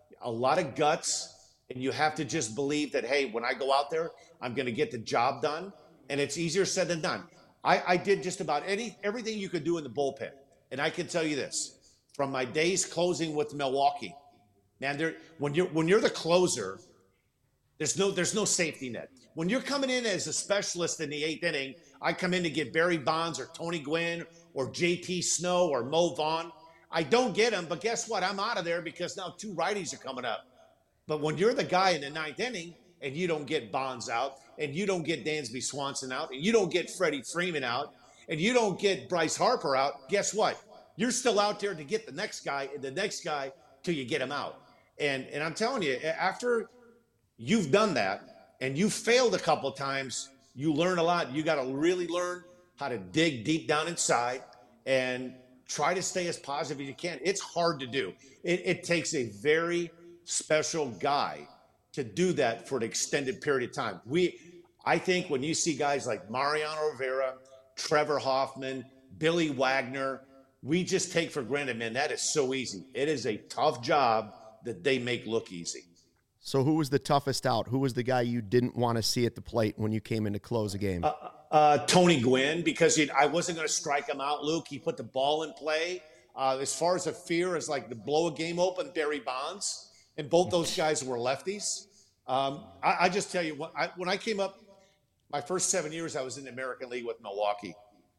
of guts, and you have to just believe that, hey, when I go out there, I'm going to get the job done. And it's easier said than done. I did just about everything you could do in the bullpen. And I can tell you this, from my days closing with Milwaukee, man, when you're the closer, there's no safety net. When you're coming in as a specialist in the 8th inning, I come in to get Barry Bonds or Tony Gwynn or JT Snow or Mo Vaughn. I don't get them, but guess what? I'm out of there because now 2 righties are coming up. But when you're the guy in the 9th inning and you don't get Bonds out, and you don't get Dansby Swanson out, and you don't get Freddie Freeman out, and you don't get Bryce Harper out, guess what? You're still out there to get the next guy and the next guy till you get him out. And I'm telling you, after you've done that and you've failed a couple of times, you learn a lot. You got to really learn how to dig deep down inside and try to stay as positive as you can. It's hard to do. It takes a very special guy to do that for an extended period of time. I think when you see guys like Mariano Rivera, Trevor Hoffman, Billy Wagner, we just take for granted, man, that is so easy. It is a tough job that they make look easy. So who was the toughest out? Who was the guy you didn't want to see at the plate when you came in to close a game? Tony Gwynn, because I wasn't going to strike him out, Luke. He put the ball in play. As far as a fear as like to blow a game open, Barry Bonds. And both those guys were lefties. I just tell you, when I came up, my first 7 years, I was in the American League with Milwaukee.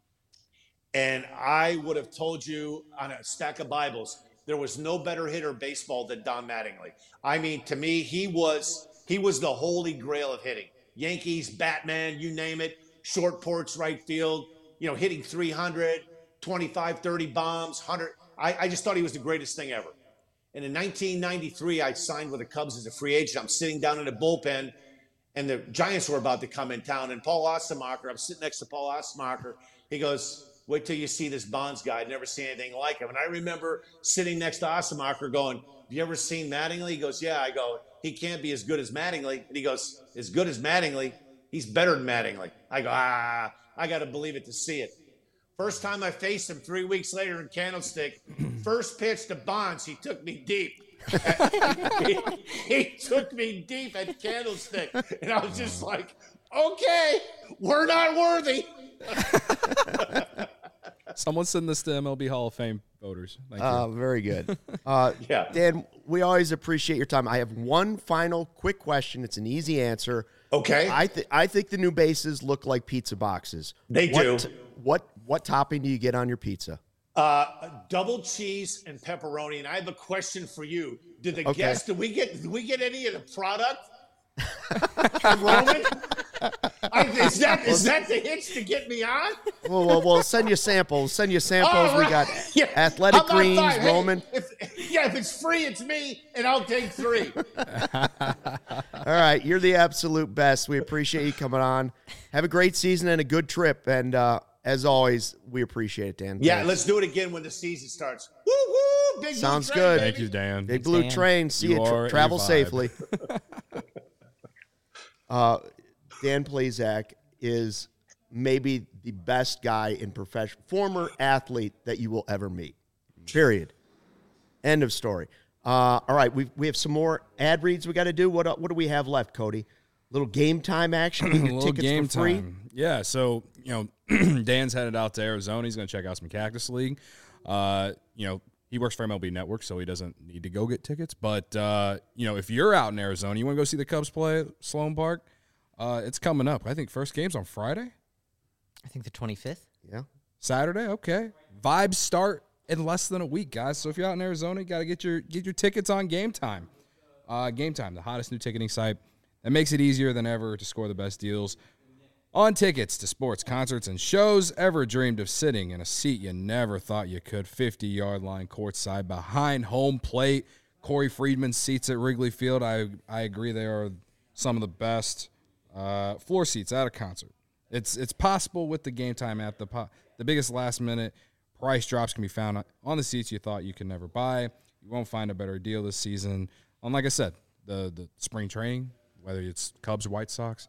And I would have told you on a stack of Bibles, there was no better hitter in baseball than Don Mattingly. I mean, to me, he was the holy grail of hitting. Yankees, Batman, you name it, short porch, right field, hitting 300, 25, 30 bombs, 100. I just thought he was the greatest thing ever. And in 1993, I signed with the Cubs as a free agent. I'm sitting down in the bullpen, and the Giants were about to come in town. And Paul Ostemacher, I'm sitting next to Paul Ostemacher. He goes, wait till you see this Bonds guy. I've never seen anything like him. And I remember sitting next to Ostemacher going, have you ever seen Mattingly? He goes, yeah. I go, he can't be as good as Mattingly. And he goes, as good as Mattingly? He's better than Mattingly. I go, I got to believe it to see it. First time I faced him 3 weeks later in Candlestick, first pitch to Bonds, he took me deep. he took me deep at Candlestick. And I was just like, okay, we're not worthy. Someone send this to MLB Hall of Fame voters. Thank you. Very good. Yeah. Dan, we always appreciate your time. I have one final quick question. It's an easy answer. Okay. I think the new bases look like pizza boxes. They do. What topping do you get on your pizza? Double cheese and pepperoni. And I have a question for you. Did we get any of the product from Roman? Is that the hitch to get me on? We'll send you samples. We got Athletic Greens, Roman. If it's free, it's me, and I'll take 3. All right, you're the absolute best. We appreciate you coming on. Have a great season and a good trip. And as always, we appreciate it, Dan. Yeah, Thanks. let's do it again when the season starts. Woo woo! Big Sounds blue train, good. baby. Thank you, Dan. Big Blue Train. See you. Travel safely. Dan Plesac is maybe the best guy in former athlete that you will ever meet. Period. End of story. All right, we have some more ad reads we got to do. What do we have left, Cody? Little game time action. We get tickets game for free. time. Yeah, so Dan's headed out to Arizona. He's going to check out some Cactus League. He works for MLB Network, so he doesn't need to go get tickets. But if you're out in Arizona, you want to go see the Cubs play at Sloan Park. It's coming up. I think first game's on Friday. I think the 25th. Yeah. Saturday. Okay. Vibes start in less than a week, guys. So if you're out in Arizona, you got to get your tickets on Game Time. Game Time, the hottest new ticketing site that makes it easier than ever to score the best deals on tickets to sports, concerts, and shows. Ever dreamed of sitting in a seat you never thought you could? 50-yard line courtside behind home plate. Corey Friedman's seats at Wrigley Field. I agree they are some of the best floor seats at a concert. It's possible with the Game Time app. The biggest last-minute price drops can be found on the seats you thought you could never buy. You won't find a better deal this season. And like I said, the spring training, whether it's Cubs or White Sox,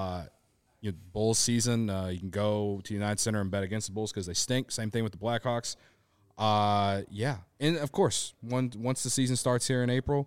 Bulls season, you can go to United Center and bet against the Bulls because they stink. Same thing with the Blackhawks. And of course, once the season starts here in April,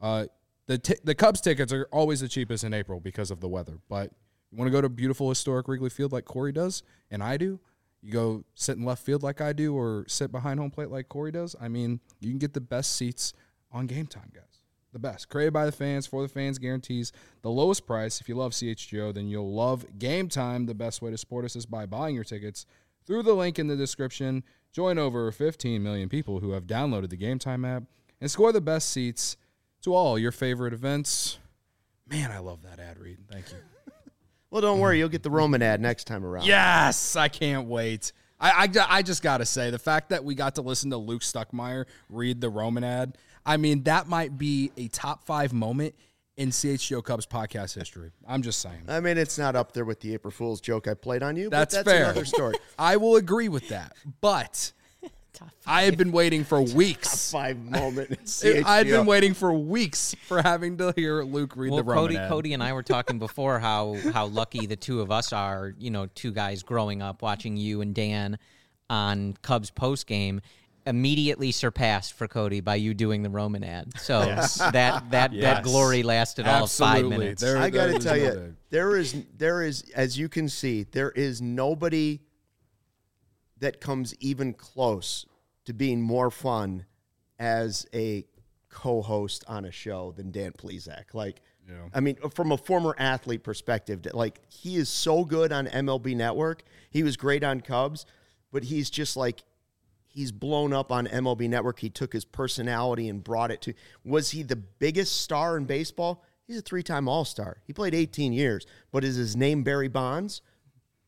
the Cubs tickets are always the cheapest in April because of the weather. But you want to go to beautiful historic Wrigley Field like Corey does, and I do. You go sit in left field like I do, or sit behind home plate like Corey does. I mean, you can get the best seats on Game Time, guys. The best. Created by the fans, for the fans, guarantees the lowest price. If you love CHGO, then you'll love Game Time. The best way to support us is by buying your tickets through the link in the description. Join over 15 million people who have downloaded the Game Time app and score the best seats to all your favorite events. Man, I love that ad read. Thank you. Well, don't worry. You'll get the Roman ad next time around. Yes, I can't wait. I just got to say, the fact that we got to listen to Luke Stuckmeyer read the Roman ad, I mean, that might be a top 5 moment in CHGO Cubs podcast history. I'm just saying. I mean, it's not up there with the April Fool's joke I played on you, that's but that's fair. another story. I will agree with that, but I had been waiting for weeks. Top 5 moment in CHGO. I had been waiting for weeks for having to hear Luke read the Roman ad. Cody and I were talking before how lucky the two of us are, two guys growing up watching you and Dan on Cubs postgame, immediately surpassed for Cody by you doing the Roman ad. So that glory lasted all of 5 minutes. I got to tell you, there is, as you can see, there is nobody that comes even close to being more fun as a co-host on a show than Dan Plesac. I mean, from a former athlete perspective, he is so good on MLB Network. He was great on Cubs, but he's just he's blown up on MLB Network. He took his personality and brought it to. Was he the biggest star in baseball? He's a 3-time All-Star. He played 18 years. But is his name Barry Bonds?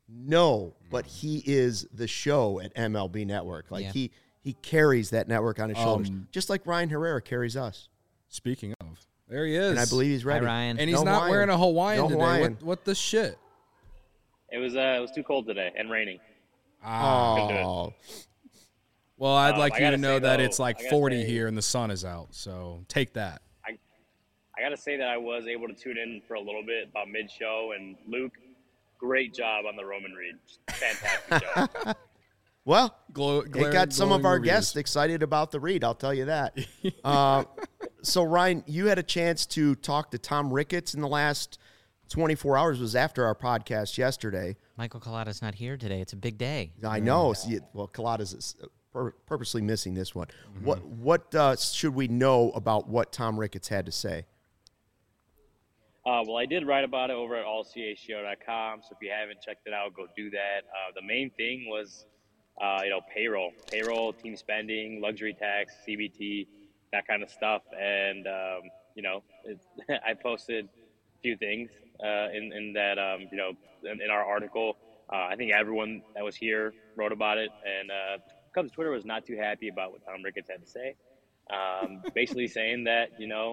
No, but he is the show at MLB Network. Like he carries that network on his shoulders, just like Ryan Herrera carries us. Speaking of, there he is. And I believe he's ready. Hi, Ryan. And he's not wearing a Hawaiian today. Hawaiian. What the shit? It was too cold today and raining. Oh. Well, I'd like you to know that though, it's like 40 here and the sun is out. So take that. I got to say that I was able to tune in for a little bit about mid-show, and Luke, great job on the Roman Reed. Fantastic job. Well, it got some of our reviews. guests excited about the read, I'll tell you that. So, Ryan, you had a chance to talk to Tom Ricketts in the last 24 hours. It was after our podcast yesterday. Michael Collada's not here today. It's a big day. I know. See, well, Collada's purposely missing this one. What should we know about what Tom Ricketts had to say? Well, I did write about it over at allchgo.com, so if you haven't checked it out, go do that. The main thing was, payroll, team spending, luxury tax, CBT, that kind of stuff. And, I posted a few things in that, in our article. I think everyone that was here wrote about it, and Cubs Twitter was not too happy about what Tom Ricketts had to say. Basically saying that,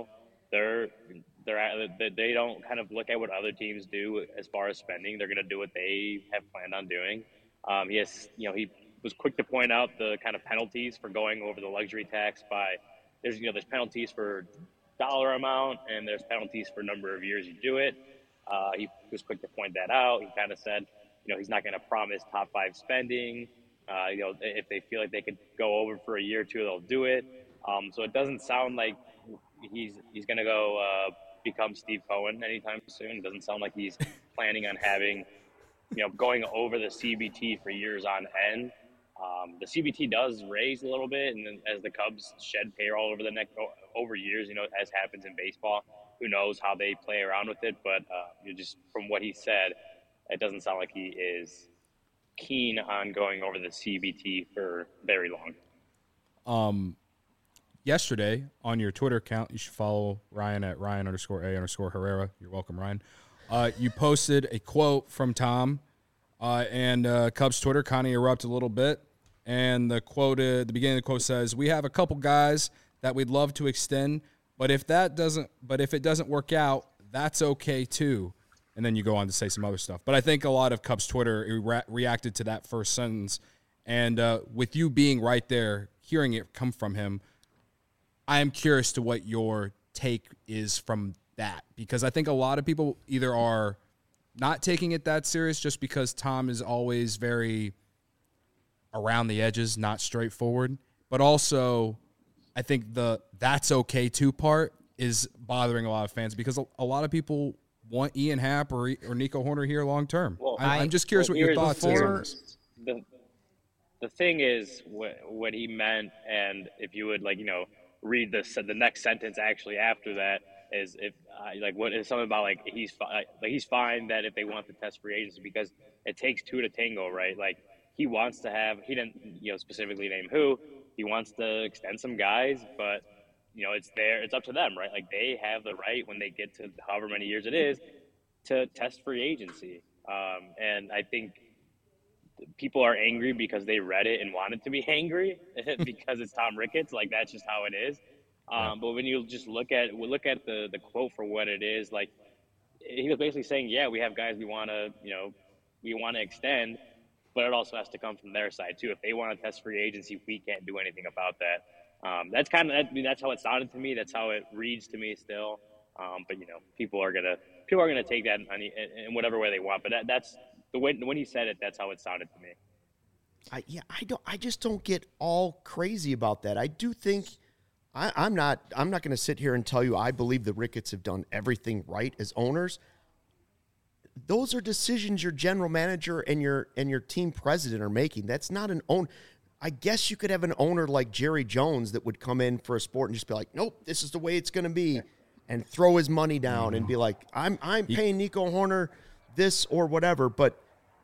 they don't kind of look at what other teams do as far as spending. They're going to do what they have planned on doing. He was quick to point out the kind of penalties for going over the luxury tax there's penalties for dollar amount and there's penalties for number of years you do it. He was quick to point that out. He kind of said, he's not going to promise top 5 spending. If they feel like they could go over for a year or two, they'll do it. So it doesn't sound like he's going to go become Steve Cohen anytime soon. It doesn't sound like he's planning on having, going over the CBT for years on end. The CBT does raise a little bit, and then as the Cubs shed payroll over years, as happens in baseball, who knows how they play around with it. But just from what he said, it doesn't sound like he is keen on going over the CBT for very long. Yesterday on your Twitter account, you should follow Ryan at Ryan_A_Herrera. You're welcome, Ryan. You posted a quote from Tom, and Cubs Twitter kind of erupted a little bit. And the quote, the beginning of the quote says, "We have a couple guys that we'd love to extend, but if it doesn't work out, that's okay too." And then you go on to say some other stuff. But I think a lot of Cubs Twitter reacted to that first sentence. And with you being right there, hearing it come from him, I am curious to what your take is from that, because I think a lot of people either are not taking it that serious just because Tom is always very around the edges, not straightforward, but also I think the "that's okay too" part is bothering a lot of fans because a lot of people want Ian Happ or Nico Hoerner here long term. Well, I'm just curious what your thoughts is on this. The thing is what he meant, and if you would read the next sentence actually after that is what is something about he's fine that if they want to test free agency because it takes two to tango, right? Like he wants to have, he didn't specifically name who, he wants to extend some guys, but it's up to them, right? Like they have the right when they get to however many years it is to test free agency. And I think people are angry because they read it and wanted to be angry because it's Tom Ricketts. Like that's just how it is. But when you just look at the quote for what it is, like he was basically saying, yeah, we have guys we want to extend, but it also has to come from their side too. If they want to test free agency, we can't do anything about that. That's that's how it sounded to me. That's how it reads to me still. But people are gonna take that in whatever way they want. But that's the way when he said it, that's how it sounded to me. I just don't get all crazy about that. I do think I'm not going to sit here and tell you I believe the Ricketts have done everything right as owners. Those are decisions your general manager and your team president are making. That's not an own. I guess you could have an owner like Jerry Jones that would come in for a sport and just be like, nope, this is the way it's going to be, and throw his money down and be like, I'm paying Nico Hoerner this or whatever. But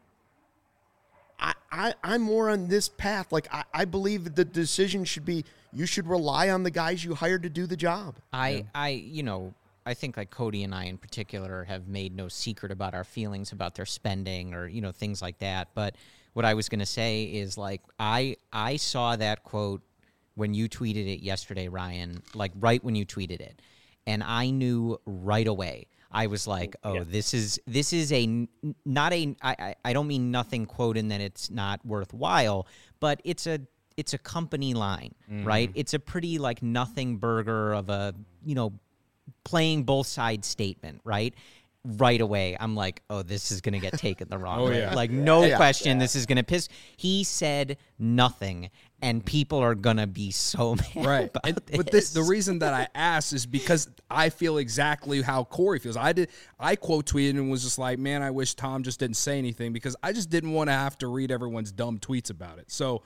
I'm more on this path. Like I believe the decision should be you should rely on the guys you hired to do the job. I think like Cody and I in particular have made no secret about our feelings about their spending or, you know, things like that. But what I was going to say is like, I saw that quote when you tweeted it yesterday, Ryan, like right when you tweeted it. And I knew right away. I was like, oh, this is not a, I don't mean nothing quote in that it's not worthwhile, but it's a company line, right? It's a pretty like nothing burger of a, you know, playing both sides statement, right? Right away, I'm like, oh, this is going to get taken the wrong way. Yeah. Like, no question, this is going to piss. He said nothing, and people are going to be so mad about this. But the reason that I asked is because I feel exactly how Corey feels. I quote tweeted and was just like, man, I wish Tom just didn't say anything because I just didn't want to have to read everyone's dumb tweets about it. So,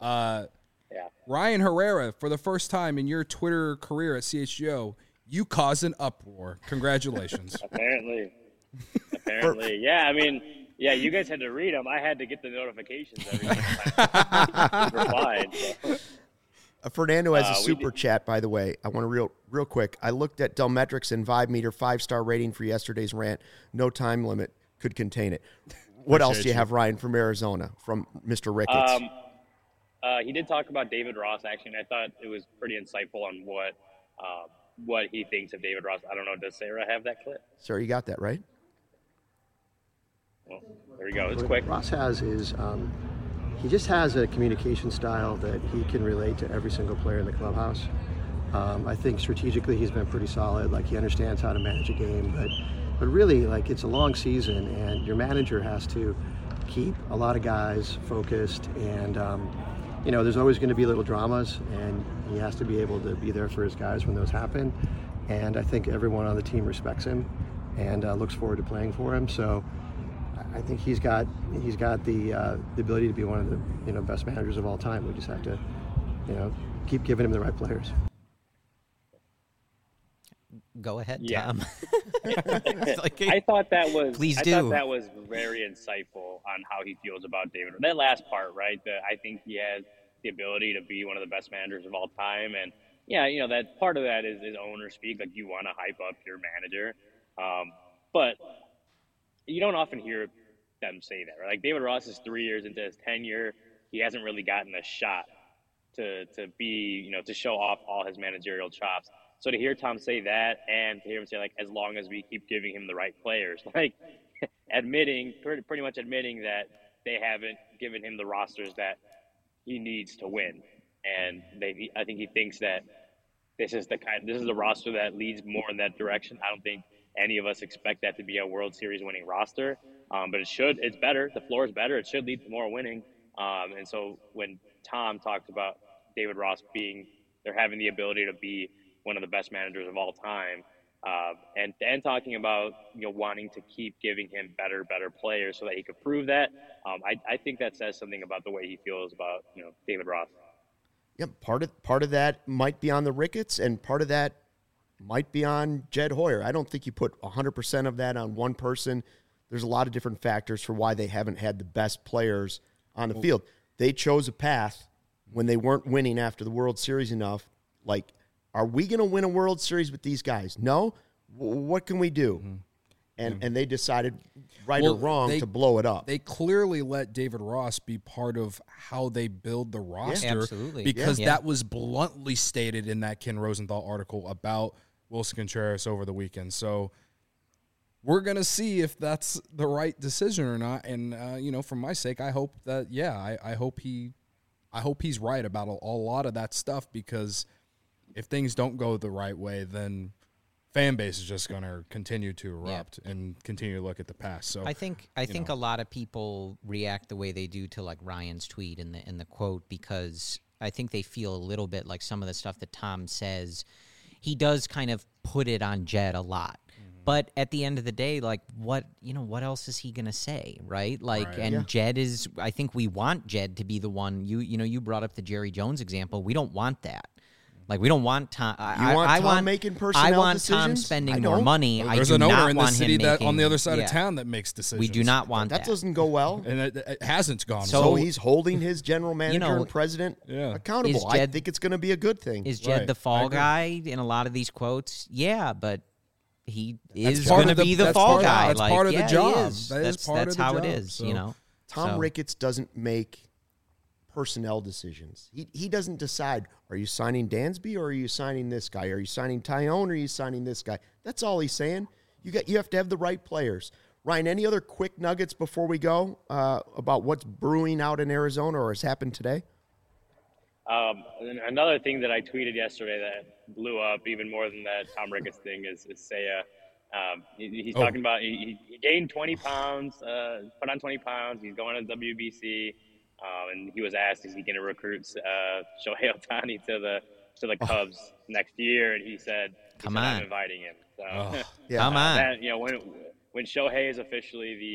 Ryan Herrera, for the first time in your Twitter career at CHGO, you caused an uproar. Congratulations. Apparently. Yeah, I mean, yeah, you guys had to read them. I had to get the notifications every time. Replied. So. Fernando has a super chat, by the way. I want to real quick. I looked at Delmetrics and Vibe Meter 5-star rating for yesterday's rant. No time limit could contain it. What else do you have, Ryan, from Arizona, from Mr. Ricketts? He did talk about David Ross, actually, and I thought it was pretty insightful on what he thinks of David Ross. I don't know. Does Sarah have that clip? Sir, you got that, right? Well, there we go. It's quick. Ross has is he just has a communication style that he can relate to every single player in the clubhouse. I think strategically he's been pretty solid. Like, he understands how to manage a game, but really, like, it's a long season, and your manager has to keep a lot of guys focused, and you know, there's always going to be little dramas, and he has to be able to be there for his guys when those happen. And I think everyone on the team respects him and looks forward to playing for him. So I think he's got the ability to be one of the, you know, best managers of all time. We just have to, you know, keep giving him the right players. Go ahead, yeah. Tom. I thought that was. Please I do. thought that was very insightful on how he feels about David. That last part, right? I think he has the ability to be one of the best managers of all time, and yeah, you know, that part of that is owner speak. Like, you want to hype up your manager, but you don't often hear them say that, right? Like, David Ross is 3 years into his tenure. He hasn't really gotten a shot to be, you know, to show off all his managerial chops. So to hear Tom say that, and to hear him say, like, as long as we keep giving him the right players, like, pretty much admitting that they haven't given him the rosters that he needs to win. And I think he thinks that this is the roster that leads more in that direction. I don't think any of us expect that to be a World Series winning roster, but it's better. The floor is better. It should lead to more winning. And so when Tom talked about David Ross having the ability to be one of the best managers of all time, and talking about, you know, wanting to keep giving him better players so that he could prove that, I think that says something about the way he feels about, you know, David Ross. Yeah, part of that might be on the Ricketts, and part of that might be on Jed Hoyer. I don't think you put 100% of that on one person. There's a lot of different factors for why they haven't had the best players on the field. They chose a path when they weren't winning after the World Series enough. Like, are we going to win a World Series with these guys? No. What can we do? Mm-hmm. And they decided, or wrong, to blow it up. They clearly let David Ross be part of how they build the roster. Yeah, absolutely. Because that was bluntly stated in that Ken Rosenthal article about Wilson Contreras over the weekend. So we're going to see if that's the right decision or not. And, you know, for my sake, I hope that, I hope he's right about a lot of that stuff, because if things don't go the right way, then fan base is just going to continue to erupt and continue to look at the past. So I think a lot of people react the way they do to, like, Ryan's tweet and the quote, because I think they feel a little bit like some of the stuff that Tom says, he does kind of put it on Jed a lot. But at the end of the day, like, what else is he going to say, right? Like, right. And Jed is, I think we want Jed to be the one. You brought up the Jerry Jones example. We don't want that. Like, we don't want Tom. I want making personnel I want decisions? Tom spending more money. There's an owner in the city that on the other side of town that makes decisions. We do not want that. That doesn't go well. And it hasn't gone well. So he's holding his general manager and president accountable. I think it's going to be a good thing. Is Jed the fall guy in a lot of these quotes? Yeah, but he is going to be the fall guy. That's like, part of the job. That's how it is, so. you know. Tom Ricketts doesn't make personnel decisions. He doesn't decide, are you signing Dansby or are you signing this guy? Are you signing Tyone or are you signing this guy? That's all he's saying. You have to have the right players. Ryan, any other quick nuggets before we go about what's brewing out in Arizona or has happened today? Another thing that I tweeted yesterday that blew up even more than that Tom Ricketts thing is Seiya. He's talking about he gained 20 pounds, put on 20 pounds. He's going to WBC, and he was asked, is he going to recruit Shohei Ohtani to the Cubs next year? And he said, I'm inviting him. So, come on. That, you know, when Shohei is officially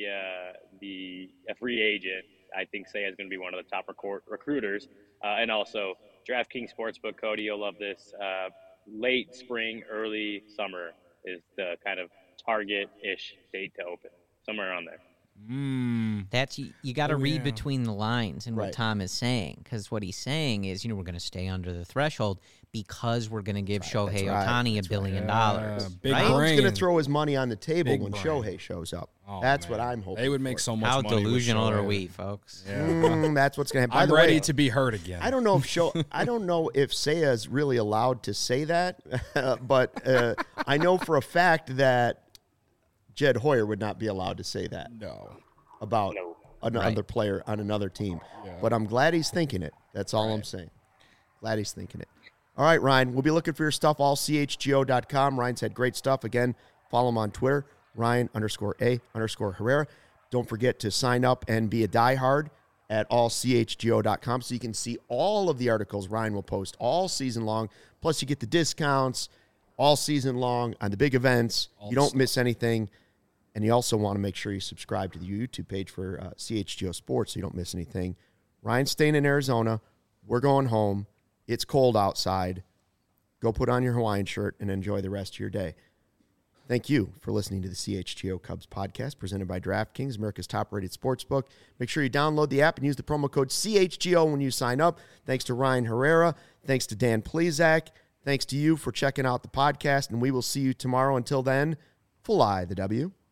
a free agent, I think Seiya is going to be one of the top recruiters. And also, DraftKings Sportsbook, Cody, you'll love this. Late spring, early summer is the kind of target-ish date to open, somewhere around there. That's you got to read between the lines in what Tom is saying, because what he's saying is, we're going to stay under the threshold because we're going to give Shohei Ohtani $1 billion. Big Tom's brain. going to throw his money on the table when brain. Shohei shows up. Oh, that's man. what I'm hoping. They would make so much How money. How delusional are we, folks? Yeah. That's what's going to happen. I'm ready to be hurt again. I don't know if Seiya is really allowed to say that, but I know for a fact that Jed Hoyer would not be allowed to say that. No. About another player on another team. Yeah. But I'm glad he's thinking it. That's all I'm saying. Glad he's thinking it. All right, Ryan, we'll be looking for your stuff, allchgo.com. Ryan's had great stuff. Again, follow him on Twitter, Ryan_A_Herrera. Don't forget to sign up and be a diehard at allchgo.com so you can see all of the articles Ryan will post all season long. Plus, you get the discounts all season long on the big events. You don't miss anything. And you also want to make sure you subscribe to the YouTube page for CHGO Sports so you don't miss anything. Ryan's staying in Arizona. We're going home. It's cold outside. Go put on your Hawaiian shirt and enjoy the rest of your day. Thank you for listening to the CHGO Cubs podcast presented by DraftKings, America's top-rated sportsbook. Make sure you download the app and use the promo code CHGO when you sign up. Thanks to Ryan Herrera. Thanks to Dan Plezak. Thanks to you for checking out the podcast, and we will see you tomorrow. Until then, fly the W.